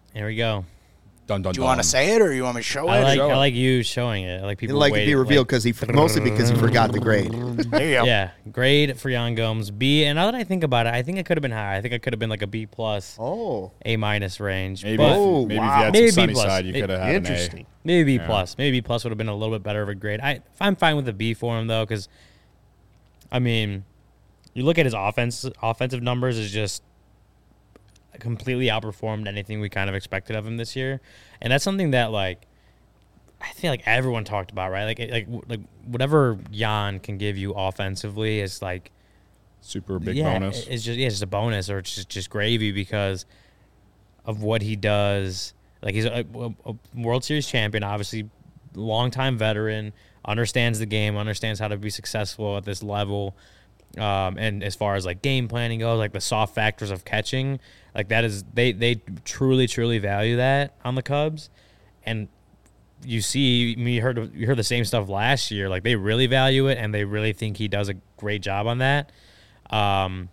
Here we go. Dun, dun, Do you want to say it or you want me to show it? I like you showing it. I like people. Like it be revealed because mostly because he forgot the grade. There you go. Yeah, grade for Yan Gomes B. And now that I think about it, I think it could have been higher. I think it could have been like a B plus, A minus range. Maybe, but maybe if you had some sunny B+. side, you could have had Interesting. an A. Maybe B plus. Maybe B plus would have been a little bit better of a grade. I'm fine with a B for him though, because I mean, you look at his offensive numbers is just completely outperformed anything we kind of expected of him this year, and that's something that like I feel like everyone talked about, right? Like whatever Yan can give you offensively is like super big bonus. It's just a bonus, or it's just gravy because of what he does. Like he's a World Series champion, obviously, longtime veteran, understands the game, understands how to be successful at this level. And as far as like game planning goes, like the soft factors of catching, like that is they truly value that on the Cubs. And you heard the same stuff last year. Like they really value it, and they really think he does a great job on that. And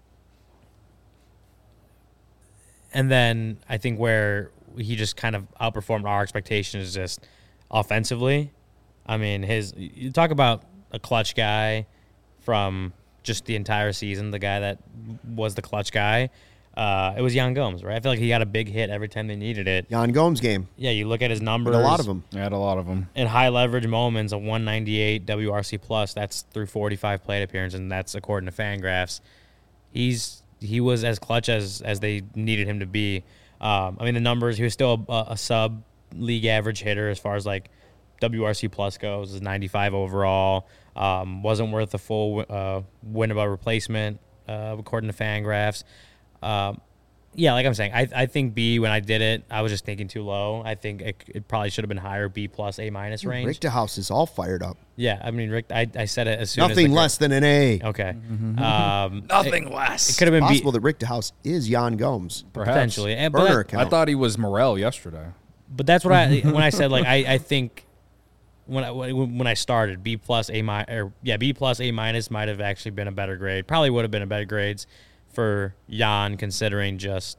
then I think where he just kind of outperformed our expectations is just offensively. I mean, you talk about a clutch guy from just the entire season, the guy that was the clutch guy. It was Yan Gomes, right? I feel like he got a big hit every time they needed it. Yan Gomes game. Yeah, you look at his numbers. A lot of them. I had a lot of them. In high leverage moments, a 198 WRC plus. That's through 45 plate appearances, and that's according to Fangraphs. He was as clutch as they needed him to be. I mean, the numbers. He was still a sub league average hitter as far as like WRC plus goes. Is 95 overall. Wasn't worth the full win above replacement according to Fangraphs. Yeah, like I'm saying, I think B, when I did it, I was just thinking too low. I think it probably should have been higher, B plus, A minus range. Richter House is all fired up. Yeah, I mean, Rick, I said it as soon as Nothing less than an A. Okay. Nothing less. It could have been Possible B, that Richter House is Yan Gomes. Perhaps. potentially. And, Burner but, account. I thought he was Morel yesterday. but that's what when I said, like, I think when I started, B plus, A minus, B plus, A minus might have actually been a better grade. Probably would have been a better grades for Yan, considering just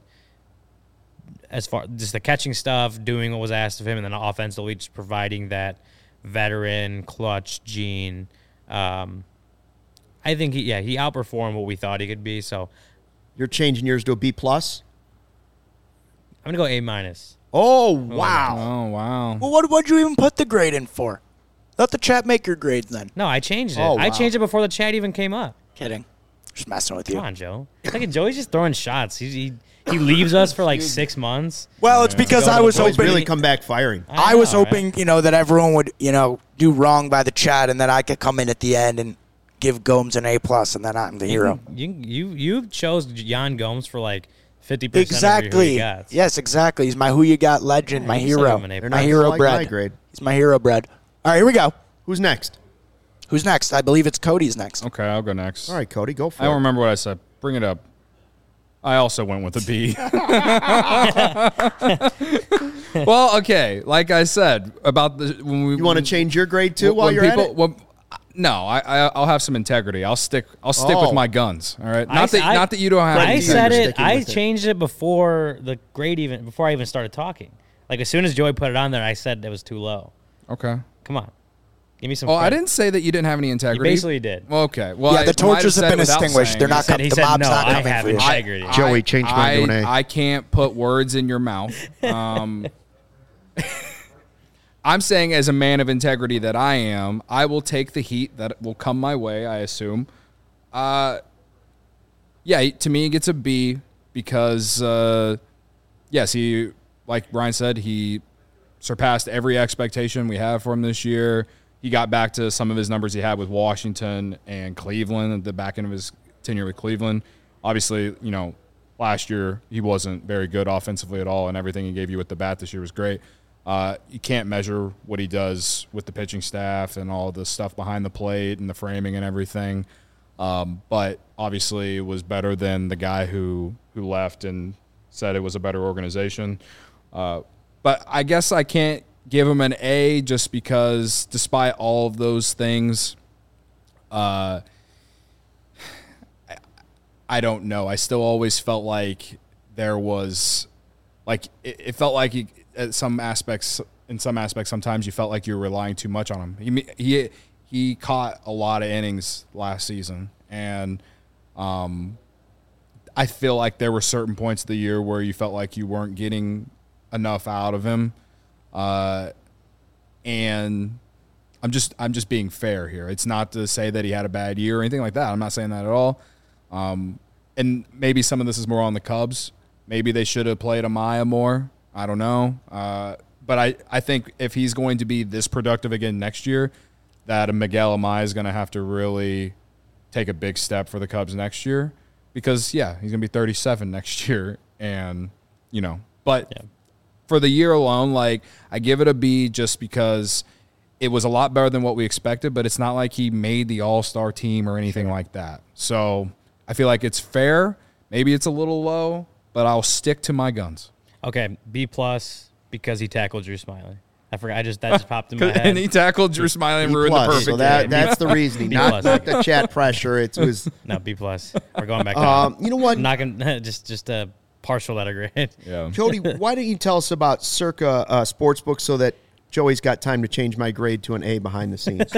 the catching stuff, doing what was asked of him, and then offensively just providing that veteran clutch gene. I think he outperformed what we thought he could be. So You're changing yours to a B plus? I'm gonna go A minus. Oh, wow. Oh, wow. Well, what'd you even put the grade in for? Let the chat make your grades then. No, I changed it. Oh, I wow. changed it before the chat even came up. Kidding. Just messing with you. Come on, Joe. It's like Joey's just throwing shots. He leaves us for like 6 months. Well, it's because I was Boys hoping really come back firing. I was know, hoping, that everyone would, do wrong by the chat, and then I could come in at the end and give Gomes an A plus, and then I'm the hero. You chose Yan Gomes for like 50% Exactly. of who you got. Yes, exactly. He's my who you got legend, my you said hero, him an A+. They're my not hero like my bread. grade. He's my hero bread. All right, here we go. Who's next? Who's next? I believe it's Cody's next. Okay, I'll go next. All right, Cody, go for I it. don't remember what I said. Bring it up. I also went with a B. Well, okay. Like I said about when we You want to change your grade too while you're at it? No, I'll have some integrity. I'll stick with my guns. All right. Not that you don't have. I any said integrity. it. I changed it before the grade before I even started talking. Like as soon as Joey put it on there, I said it was too low. Okay. Come on, give me some. Oh, credit. I didn't say that you didn't have any You integrity. basically did. Well, okay. Well, Yeah, the I might torches have said been without extinguished. saying They're it. not He the said, mob's no, not I coming have for you. integrity. Joey, change mine to an A. I can't put words in your mouth. I'm saying as a man of integrity that I am, I will take the heat that will come my way, I assume. Yeah, to me, it gets a B because, yes, he, like Brian said, he surpassed every expectation we have for him this year. He got back to some of his numbers he had with Washington and Cleveland at the back end of his tenure with Cleveland. Obviously, last year he wasn't very good offensively at all, and everything he gave you with the bat this year was great. You can't measure what he does with the pitching staff and all the stuff behind the plate and the framing and everything. But obviously it was better than the guy who left and said it was a better organization. But I guess I can't give him an A just because despite all of those things, I don't know. I still always felt like there was like it felt like in some aspects, sometimes you felt like you were relying too much on him. He caught a lot of innings last season, and I feel like there were certain points of the year where you felt like you weren't getting enough out of him, and I'm just being fair here. It's not to say that he had a bad year or anything like that. I'm not saying that at all. And maybe some of this is more on the Cubs. Maybe they should have played Amaya more. I don't know. But I think if he's going to be this productive again next year, that Miguel Amaya is going to have to really take a big step for the Cubs next year. Because, yeah, he's going to be 37 next year. And, but for the year alone, like, I give it a B just because it was a lot better than what we expected, but it's not like he made the all-star team or anything like that. So I feel like it's fair. Maybe it's a little low, but I'll stick to my guns. Okay, B+ because he tackled Drew Smyly. I forgot. that just popped in my head. And he tackled Drew Smyly and ruined the perfect so game. That's the reasoning, not the chat pressure. It was no B+. We're going back down. You know what? I'm not gonna just a partial letter grade. Yeah. Cody, why don't you tell us about Circa Sportsbook so that Joey's got time to change my grade to an A behind the scenes?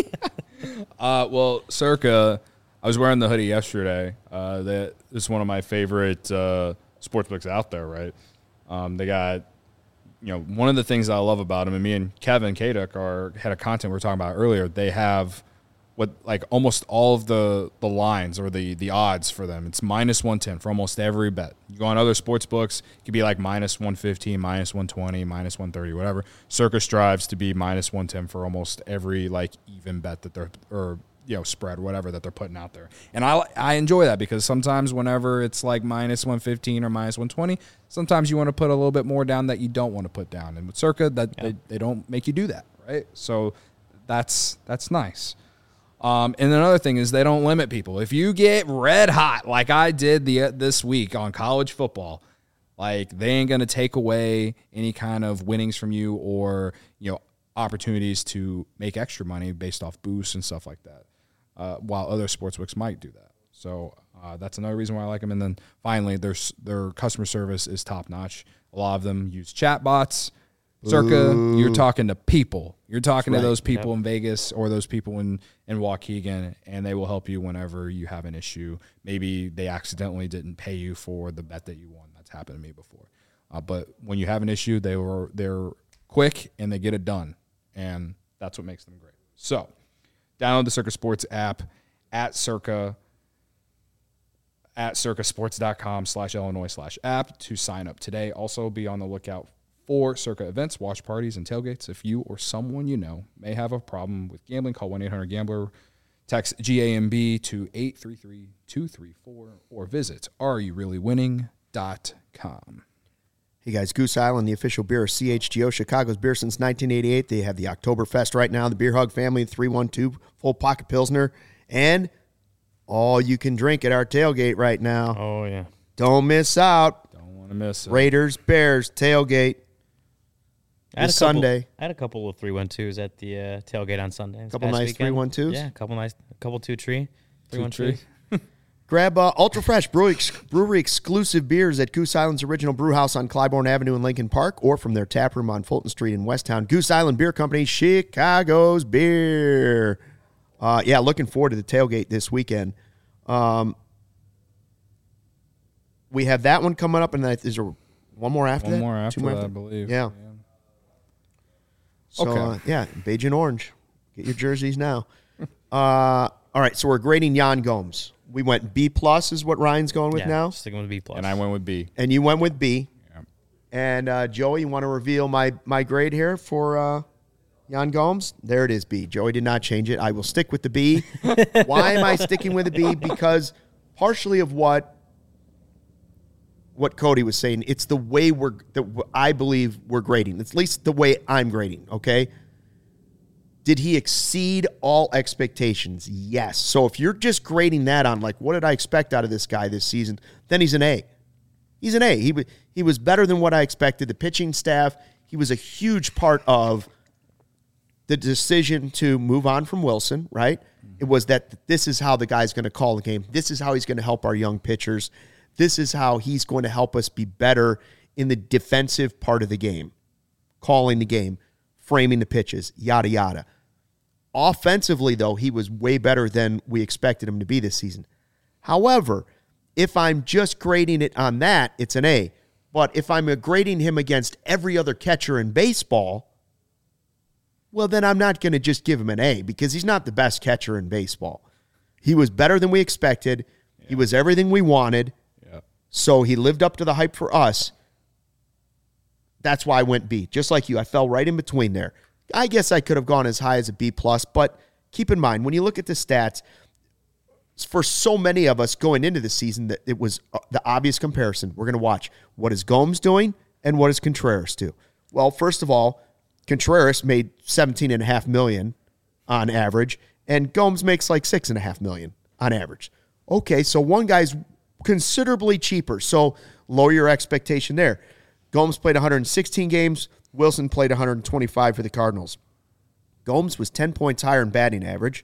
Well, Circa, I was wearing the hoodie yesterday. That is one of my favorite sportsbooks out there, right? They got, one of the things that I love about them, and me and Kevin Kaduk, our head of content we were talking about earlier, they have what, like, almost all of the lines or the odds for them. It's -110 for almost every bet. You go on other sports books, it could be like -115, -120, -130, whatever. Circa strives to be -110 for almost every, like, even bet that they're, or spread, whatever, that they're putting out there. And I enjoy that because sometimes whenever it's like -115 or -120, sometimes you want to put a little bit more down that you don't want to put down. And with Circa, they don't make you do that, right? So that's nice. And another thing is they don't limit people. If you get red hot like I did this week on college football, like, they ain't going to take away any kind of winnings from you or, opportunities to make extra money based off boosts and stuff like that. While other sportsbooks might do that. So that's another reason why I like them. And then finally, their customer service is top-notch. A lot of them use chatbots. Circa, you're talking to people. You're talking to those people in Vegas or those people in Waukegan, and they will help you whenever you have an issue. Maybe they accidentally didn't pay you for the bet that you won. That's happened to me before. But when you have an issue, they're quick, and they get it done. And that's what makes them great. So download the Circa Sports app at circasports.com/Illinois/app to sign up today. Also, be on the lookout for Circa events, watch parties, and tailgates. If you or someone you know may have a problem with gambling, call 1-800-GAMBLER, text GAMB to 833-234, or visit areyourreallywinning.com. Hey guys, Goose Island, the official beer of CHGO, Chicago's beer since 1988. They have the Oktoberfest right now, the Beer Hug family, 312 full pocket Pilsner, and all you can drink at our tailgate right now. Oh, yeah. Don't miss out. Don't want to miss it. Raiders, Bears, tailgate this Sunday. I had a couple of 312s at the tailgate on Sunday. A couple nice 312s? Yeah, a couple two tree. 312s. Grab Ultra Fresh brewery exclusive beers at Goose Island's original brew house on Clybourne Avenue in Lincoln Park, or from their tap room on Fulton Street in Westtown. Goose Island Beer Company, Chicago's beer. Looking forward to the tailgate this weekend. We have that one coming up, and is there one more after that? One more after that, I believe. Yeah. So, okay. beige and orange. Get your jerseys now. All right, so we're grading Yan Gomes. We went B+ is what Ryan's going with now. Sticking with B+. And I went with B. And you went with B. Yeah. And Joey, you want to reveal my grade here for Yan Gomes? There it is, B. Joey did not change it. I will stick with the B. Why am I sticking with the B? Because partially of what Cody was saying, it's the way I believe we're grading. It's at least the way I'm grading, okay? Did he exceed all expectations? Yes. So if you're just grading that on, like, what did I expect out of this guy this season, then he's an A. He's an A. He was better than what I expected. The pitching staff, he was a huge part of the decision to move on from Wilson, right? It was that this is how the guy's going to call the game. This is how he's going to help our young pitchers. This is how he's going to help us be better in the defensive part of the game, calling the game, framing the pitches, yada, yada. Offensively, though, he was way better than we expected him to be this season. However, if I'm just grading it on that, it's an A. But if I'm grading him against every other catcher in baseball, well, then I'm not going to just give him an A because he's not the best catcher in baseball. He was better than we expected. Yeah. He was everything we wanted. Yeah. So he lived up to the hype for us. That's why I went B. Just like you, I fell right in between there. I guess I could have gone as high as a B+, but keep in mind, when you look at the stats, for so many of us going into the season, that it was the obvious comparison. We're going to watch what is Gomes doing and what is Contreras do. Well, first of all, Contreras made $17.5 million on average, and Gomes makes like $6.5 million on average. Okay, so one guy's considerably cheaper, so lower your expectation there. Gomes played 116 games. Wilson played 125 for the Cardinals. Gomes was 10 points higher in batting average.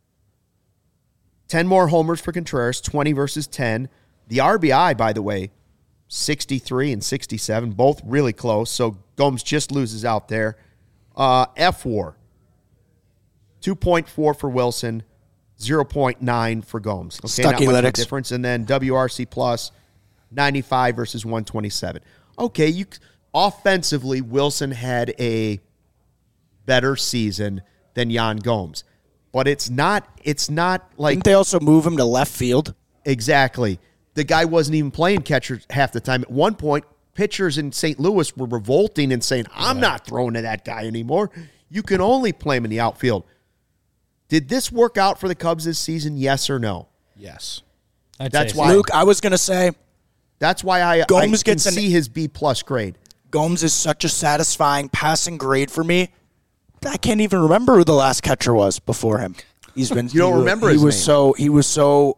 10 more homers for Contreras, 20 versus 10. The RBI, by the way, 63 and 67, both really close. So Gomes just loses out there. F-WAR, 2.4 for Wilson, 0.9 for Gomes. Okay, Stuck not much of a analytics. difference. And then WRC plus, 95 versus 127. Okay, offensively, Wilson had a better season than Yan Gomes. But it's not like... Didn't they also move him to left field? Exactly. The guy wasn't even playing catcher half the time. At one point, pitchers in St. Louis were revolting and saying, I'm not throwing to that guy anymore. You can only play him in the outfield. Did this work out for the Cubs this season, yes or no? Yes. That's why, Luke, I was going to say... That's why I can see his B+ grade. Gomes is such a satisfying passing grade for me. I can't even remember who the last catcher was before him. He's been. You don't remember his name. He was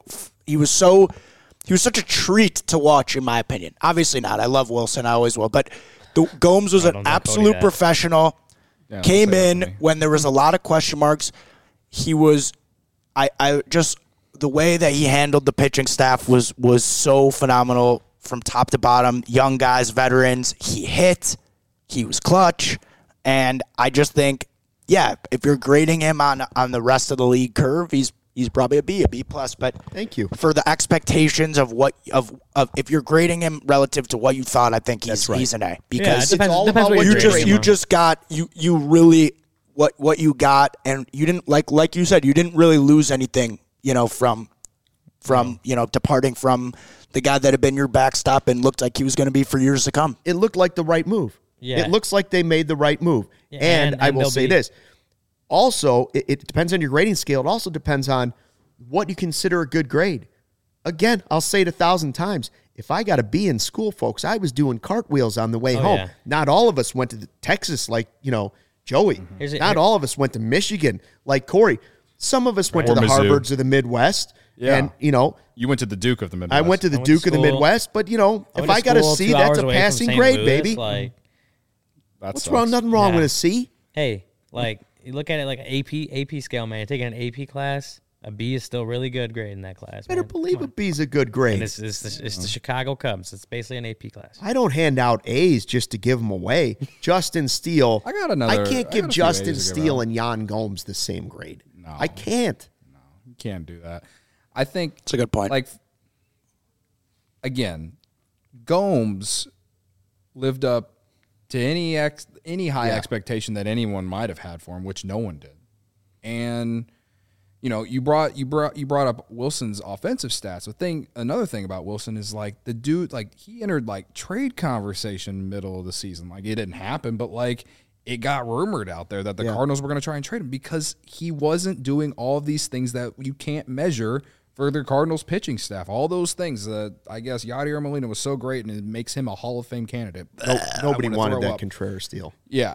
such a treat to watch, in my opinion. Obviously not. I love Wilson. I always will. But Gomes was an absolute professional. Yeah, came in when there was a lot of question marks. He was. I just the way that he handled the pitching staff was so phenomenal from top to bottom. Young guys, veterans. He hit. He was clutch, and I just think. Yeah, if you're grading him on the rest of the league curve, he's probably a B+. But thank you for the expectations of if you're grading him relative to what you thought, I think he's an A because it depends what you just got you really what you got, and you didn't like you said, you didn't really lose anything from departing from the guy that had been your backstop and looked like he was going to be for years to come. It looked like the right move. Yeah. It looks like they made the right move. Yeah, and I will say this. Also, it depends on your grading scale. It also depends on what you consider a good grade. Again, I'll say it 1,000 times. If I got a B in school, folks, I was doing cartwheels on the way home. Yeah. Not all of us went to Texas like, Joey. Mm-hmm. Not all of us went to Michigan like Corey. Some of us went to the Harvards of the Midwest. Yeah. And, you went to the Duke of the Midwest. I went to the Duke of the Midwest. But, if I got a C, that's a passing grade, baby. What's wrong? Nothing wrong with a C. Hey, you look at it like an AP scale, man. You're taking an AP class, a B is still really good grade in that class. Better believe a B is a good grade. And it's the Chicago Cubs. It's basically an AP class. I don't hand out A's just to give them away. Justin Steele. I can't give Justin Steele and Yan Gomes the same grade. No, I can't. No, you can't do that. I think it's a good point. Again, Gomes lived up to any high expectation that anyone might have had for him, which no one did. And you brought up Wilson's offensive stats. Another thing about Wilson is the dude, he entered trade conversation middle of the season. It didn't happen, but it got rumored out there that the Cardinals were going to try and trade him because he wasn't doing all of these things that you can't measure for the Cardinals pitching staff. All those things that I guess Yadier Molina was so great and it makes him a Hall of Fame candidate. Nobody wanted that Contreras deal. Yeah.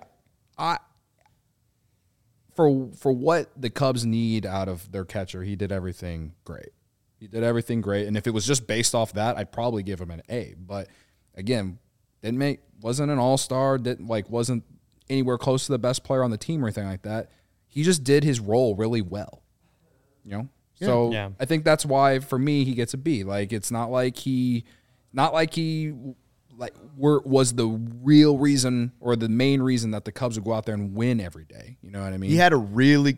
For what the Cubs need out of their catcher, he did everything great. And if it was just based off that, I'd probably give him an A. But again, wasn't an all-star, wasn't anywhere close to the best player on the team or anything like that. He just did his role really well. So I think that's why for me he gets a B. It's not like he was the real reason or the main reason that the Cubs would go out there and win every day. You know what I mean? He had a really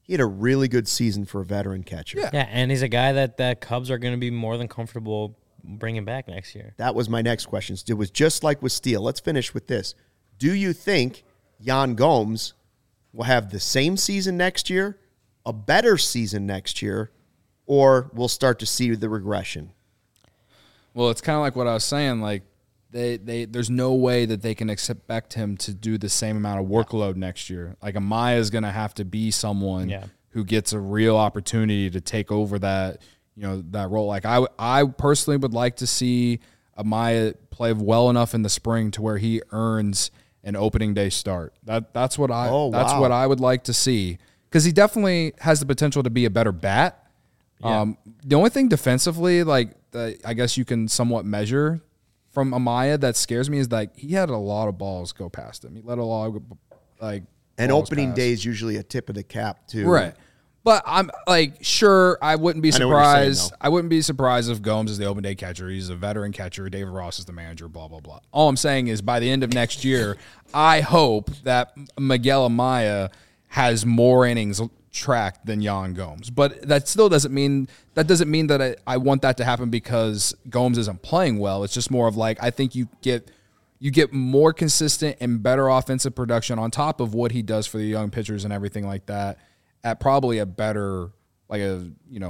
good season for a veteran catcher. Yeah, and he's a guy that Cubs are going to be more than comfortable bringing back next year. That was my next question. It was just like with Steele. Let's finish with this. Do you think Yan Gomes will have the same season next year, a better season next year, or we'll start to see the regression? Well, it's kind of like what I was saying. Like, there's no way that they can expect him to do the same amount of workload next year. Like, Amaya is going to have to be someone who gets a real opportunity to take over that, that role. Like, I personally would like to see Amaya play well enough in the spring to where he earns an opening day start. That's what I would like to see, because he definitely has the potential to be a better bat. Yeah. The only thing defensively, I guess you can somewhat measure from Amaya that scares me is that he had a lot of balls go past him. He let a lot of and opening day is usually a tip of the cap too, right? But I'm sure, I wouldn't be surprised. I wouldn't be surprised if Gomes is the open day catcher. He's a veteran catcher. David Ross is the manager. Blah blah blah. All I'm saying is, by the end of next year, I hope that Miguel Amaya has more innings tracked than Yan Gomes. But that still doesn't mean that I want that to happen because Gomes isn't playing well. It's just more of I think you get more consistent and better offensive production on top of what he does for the young pitchers and everything like that at probably a better, a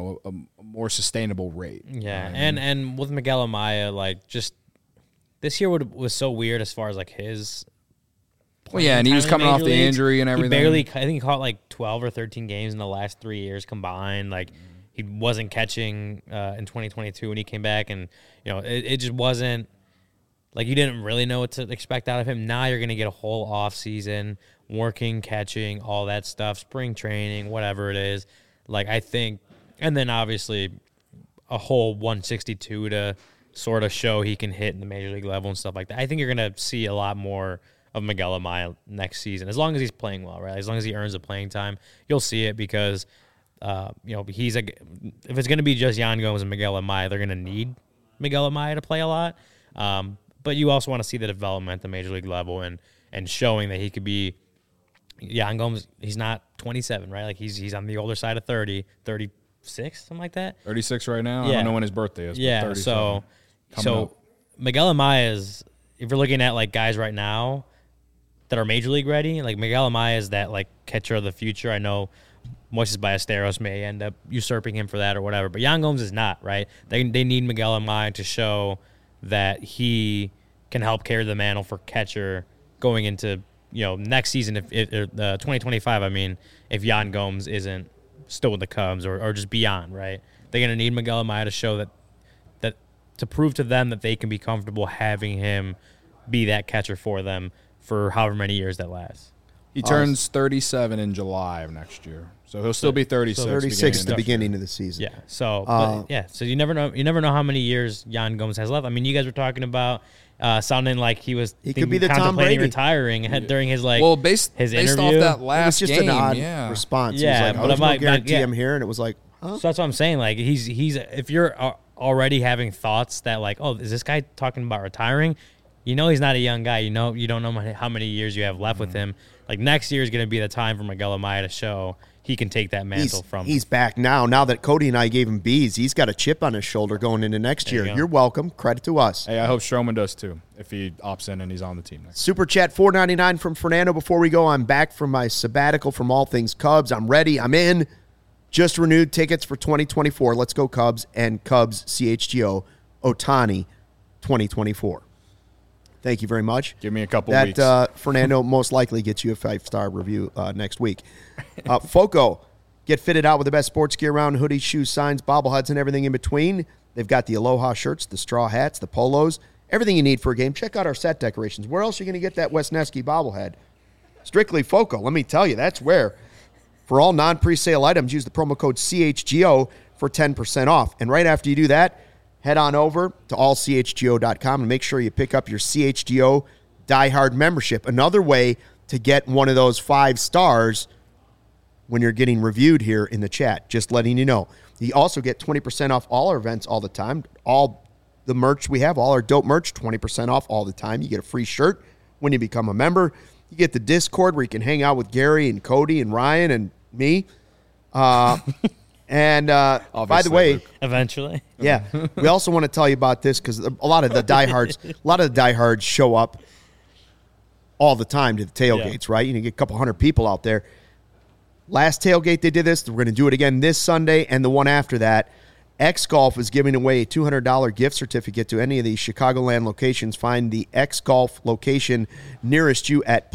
more sustainable rate. Yeah, and with Miguel Amaya, just this year was so weird as far as his. Well, yeah, and he was coming off the injury and everything. I think he caught 12 or 13 games in the last 3 years combined. He wasn't catching in 2022 when he came back, and it just wasn't you didn't really know what to expect out of him. Now you're going to get a whole off season, working, catching, all that stuff, spring training, whatever it is. I think, and then obviously a whole 162 to sort of show he can hit in the major league level and stuff like that. I think you're going to see a lot more of Miguel Amaya next season, as long as he's playing well, right? As long as he earns the playing time, you'll see it because, if it's going to be just Yan Gomes and Miguel Amaya, they're going to need Miguel Amaya to play a lot. But you also want to see the development at the major league level and showing that he could be Yan Gomes. He's not 27, right? He's on the older side of 30, 36, something like that. 36 right now. Yeah. I don't know when his birthday is. Yeah. So Miguel Amaya is, if you're looking at guys right now that are major league ready, Miguel Amaya is that catcher of the future. I know Moises Ballesteros may end up usurping him for that or whatever, but Yan Gomes is not, right? They need Miguel Amaya to show that he can help carry the mantle for catcher going into next season, if 2025. I mean, if Yan Gomes isn't still with the Cubs or just beyond, right? They're gonna need Miguel Amaya to show that to prove to them that they can be comfortable having him be that catcher for them for however many years that lasts. He turns 37 in July of next year, so he'll still be 36. So 36 at the beginning of the season. Yeah. So so you never know. You never know how many years Yan Gomes has left. I mean, you guys were talking about sounding like he could be the Tom Brady retiring during his based interview. Off that last it was just game, an odd response. Yeah, he was no guarantee I'm here, and it was huh? So that's what I'm saying. He's if you're already having thoughts that is this guy talking about retiring? He's not a young guy. You don't know how many years you have left with him. Next year is going to be the time for Miguel Amaya to show he can take that mantle from him. He's back now. Now that Cody and I gave him B's, he's got a chip on his shoulder going into next year. You're welcome. Credit to us. Hey, I hope Stroman does too, if he opts in and he's on the team next. Super Chat $4.99 from Fernando. Before we go, I'm back from my sabbatical from all things Cubs. I'm ready. I'm in. Just renewed tickets for 2024. Let's go Cubs and Cubs CHGO Ohtani 2024. Thank you very much. Give me a couple weeks. Fernando most likely gets you a 5-star review next week. Foco, get fitted out with the best sports gear around, hoodies, shoes, signs, bobbleheads, and everything in between. They've got the Aloha shirts, the straw hats, the polos, everything you need for a game. Check out our set decorations. Where else are you going to get that Wesneski bobblehead? Strictly Foco. Let me tell you, that's where. For all non-presale items, use the promo code CHGO for 10% off. And right after you do that, head on over to allchgo.com and make sure you pick up your CHGO diehard membership. Another way to get one of those 5 stars when you're getting reviewed here in the chat. Just letting you know. You also get 20% off all our events all the time. All the merch we have, all our dope merch, 20% off all the time. You get a free shirt when you become a member. You get the Discord where you can hang out with Gary and Cody and Ryan and me. By the way, Luke. Eventually. yeah, we also want to tell you about this because a lot of the diehards show up all the time to the tailgates, right? You get a couple hundred people out there. Last tailgate they did this. We're going to do it again this Sunday and the one after that. X Golf is giving away a $200 gift certificate to any of these Chicagoland locations. Find the X Golf location nearest you at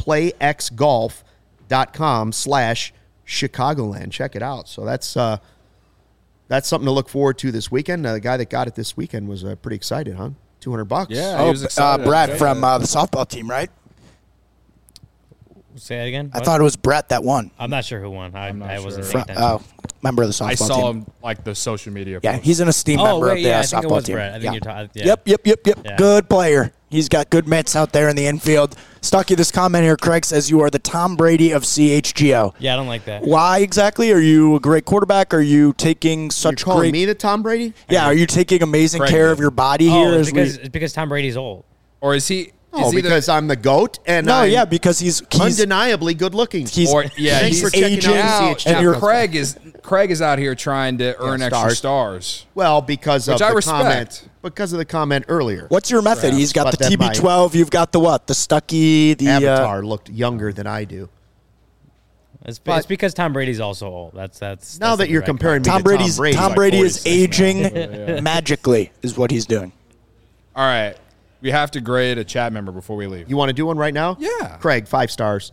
playxgolf.com/Chicagoland. Check it out. So that's something to look forward to this weekend. The guy that got it this weekend was pretty excited, huh? $200. Yeah, he was excited. Brad from the softball team, right? Say that again. I thought it was Brett that won. I'm not sure who won. I wasn't sure. paying attention. Member of the softball team. I saw him like the social media. Yeah, posts. he's an esteemed member of the I think it softball was team. Brett. I think you're talking. Yep. Yeah. Good player. He's got good mitts out there in the infield. Stucky, this comment here, Craig says you are the Tom Brady of CHGO. Yeah, I don't like that. Why exactly? Are you a great quarterback? Are you taking such You're calling great? me the Tom Brady? Yeah, are you taking amazing Craig care did. of your body here? It's because Tom Brady's old. Or is he? Oh, is he because I'm the GOAT and No, I'm yeah, because he's undeniably good looking. he's Thanks he's for checking aging, out the now, CHGO. Craig is out here trying to earn extra stars. Well, because of Which I the respect. comment. Because of the comment earlier. What's your method? He's got But the then my TB12. You've got the what? The Stucky. The Avatar looked younger than I do. It's But- because Tom Brady's also old. That's Now that you're comparing me Tom to Brady's Tom Brady, Tom Brady like is 46 aging magically, is what he's doing. All right, we have to grade a chat member before we leave. you want to do one right now? Yeah. Craig, 5 stars.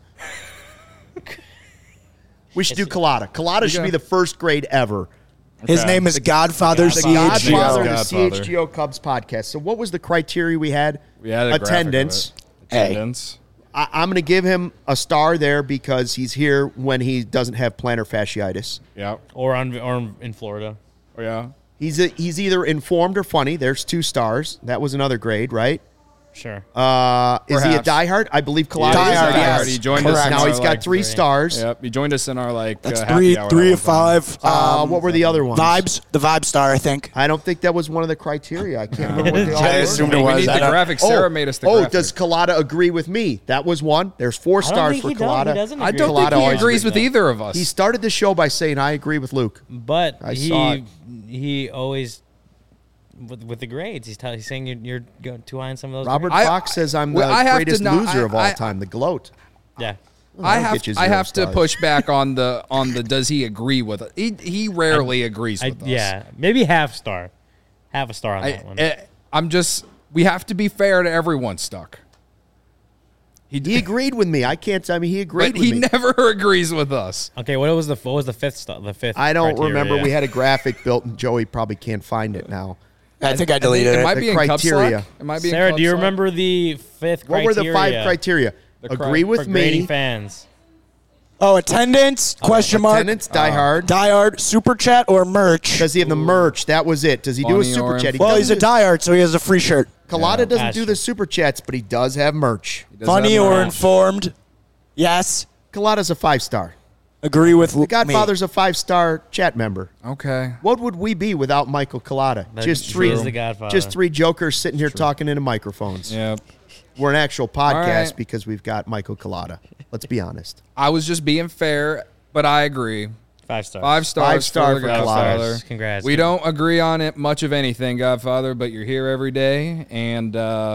We should do Colada. Colada should be the first grade ever. His name is Godfather The CHGO. Godfather of the Godfather. CHGO Cubs podcast. So what was the criteria we had? We had a graphic of attendance. it. Attendance. I'm going to give him a star there because he's here when he doesn't have plantar fasciitis. Yeah. or in Florida. Oh yeah. He's either informed or funny. There's 2 stars. That was another grade, right? Sure. Is he a Perhaps. diehard? I believe Colada Diehard, is a diehard. yes. He joined us. Correct. in Now our, he's got like, 3 stars. Yep. He joined us in our That's happy hour three that of one time. 5. What were the other ones? Vibes, the Vibe Star, I think. I don't think that was one of the criteria. I can't remember what they all I were. assumed I it mean, we was. need I the don't- graphic. Sarah made us the graphic. does Colada agree with me? That was one. There's 4 I don't stars think for he Colada. doesn't I agree don't with think Colada he always agrees with either of us. He started the show by saying, I agree with Luke. But I saw it. he always with the grades. He's saying you're going too high on some of those. Robert grades. Fox says I'm the well, I have to greatest not- loser of all I- time, the gloat. Yeah. I I'll get you have 0 to stars. push back on the does he agree with it? He rarely agrees with us. Yeah. Maybe half a star on that one. I'm just we have to be fair to everyone. Stuck. He agreed with me. I can't. I mean, he agreed But with he me. never agrees with us. Okay, what was the 5th star? The 5th. I don't criteria? remember. We had a graphic built, and Joey probably can't find it now. I think I deleted It it. might The be in Cub criteria. Slack. It might be in Sarah, Cub do you Slack. remember the 5th criteria? What were the 5 criteria? Agree with for grading me. fans? Oh, attendance? Question mark. Attendance, die hard. Diehard, super chat, or merch? Does he have the merch? That was it. Does he do a Funny super or chat? He Well, he's a doesn't- diehard, so he has a free shirt. Colada doesn't That's do true. the super chats, but he does have merch. Does Funny that or matter? informed? Yes. Colada's a 5-star. Agree with The Godfather's a 5-star chat member. Okay. What would we be without Michael Colada? That's Just true. three, He's the Godfather. just 3 jokers sitting here talking into microphones. Yeah. We're an actual podcast right. because we've got Michael Colada. Let's be honest. I was just being fair, but I agree. 5 stars. 5 stars 5-star for the for Godfather. Congrats. Congrats. We don't agree on it much of anything, Godfather, but you're here every day, and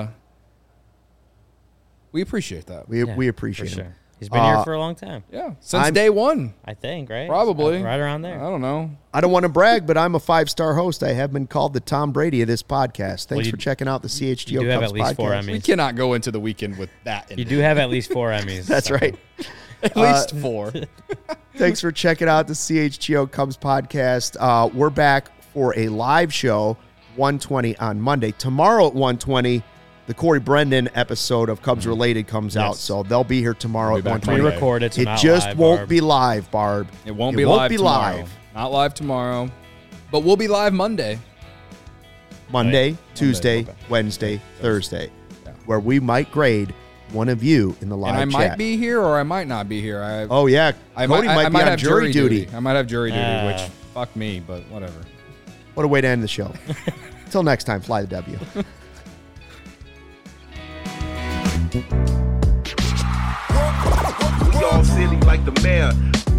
we appreciate that. We Yeah, appreciate for it. sure. He's been here for a long time. Yeah, since I'm- day one, I think, right? probably. Right around I there. don't know. I don't want to brag, but I'm a 5-star host. I have been called the Tom Brady of this podcast. Thanks you- for checking out the CHGO you do have Cubs at least 4 podcast. Emmys. We cannot go into the weekend with that. In You it. do have at least 4 Emmys. That's right. at least 4. Thanks for checking out the CHGO Cubs podcast. We're back for a live show, 1:20 on Monday. Tomorrow at 1:20, the Corey Brendan episode of Cubs Related comes out, so they'll be here tomorrow We'll at be back 1:20. We Monday. record it, so It not just live, won't Barb. be live, Barb. It won't be live tomorrow. live. Not live tomorrow, but we'll be live Monday. Monday, Tuesday, okay. Wednesday, Thursday, Yeah. where we might grade one of you in the live And I chat. might be here or I might not be here. Oh, yeah. I Cody might be on have jury duty. I might have jury duty, Ah. which fuck me, but whatever. What a way to end the show. Until next time, fly the W. We all silly like the mayor.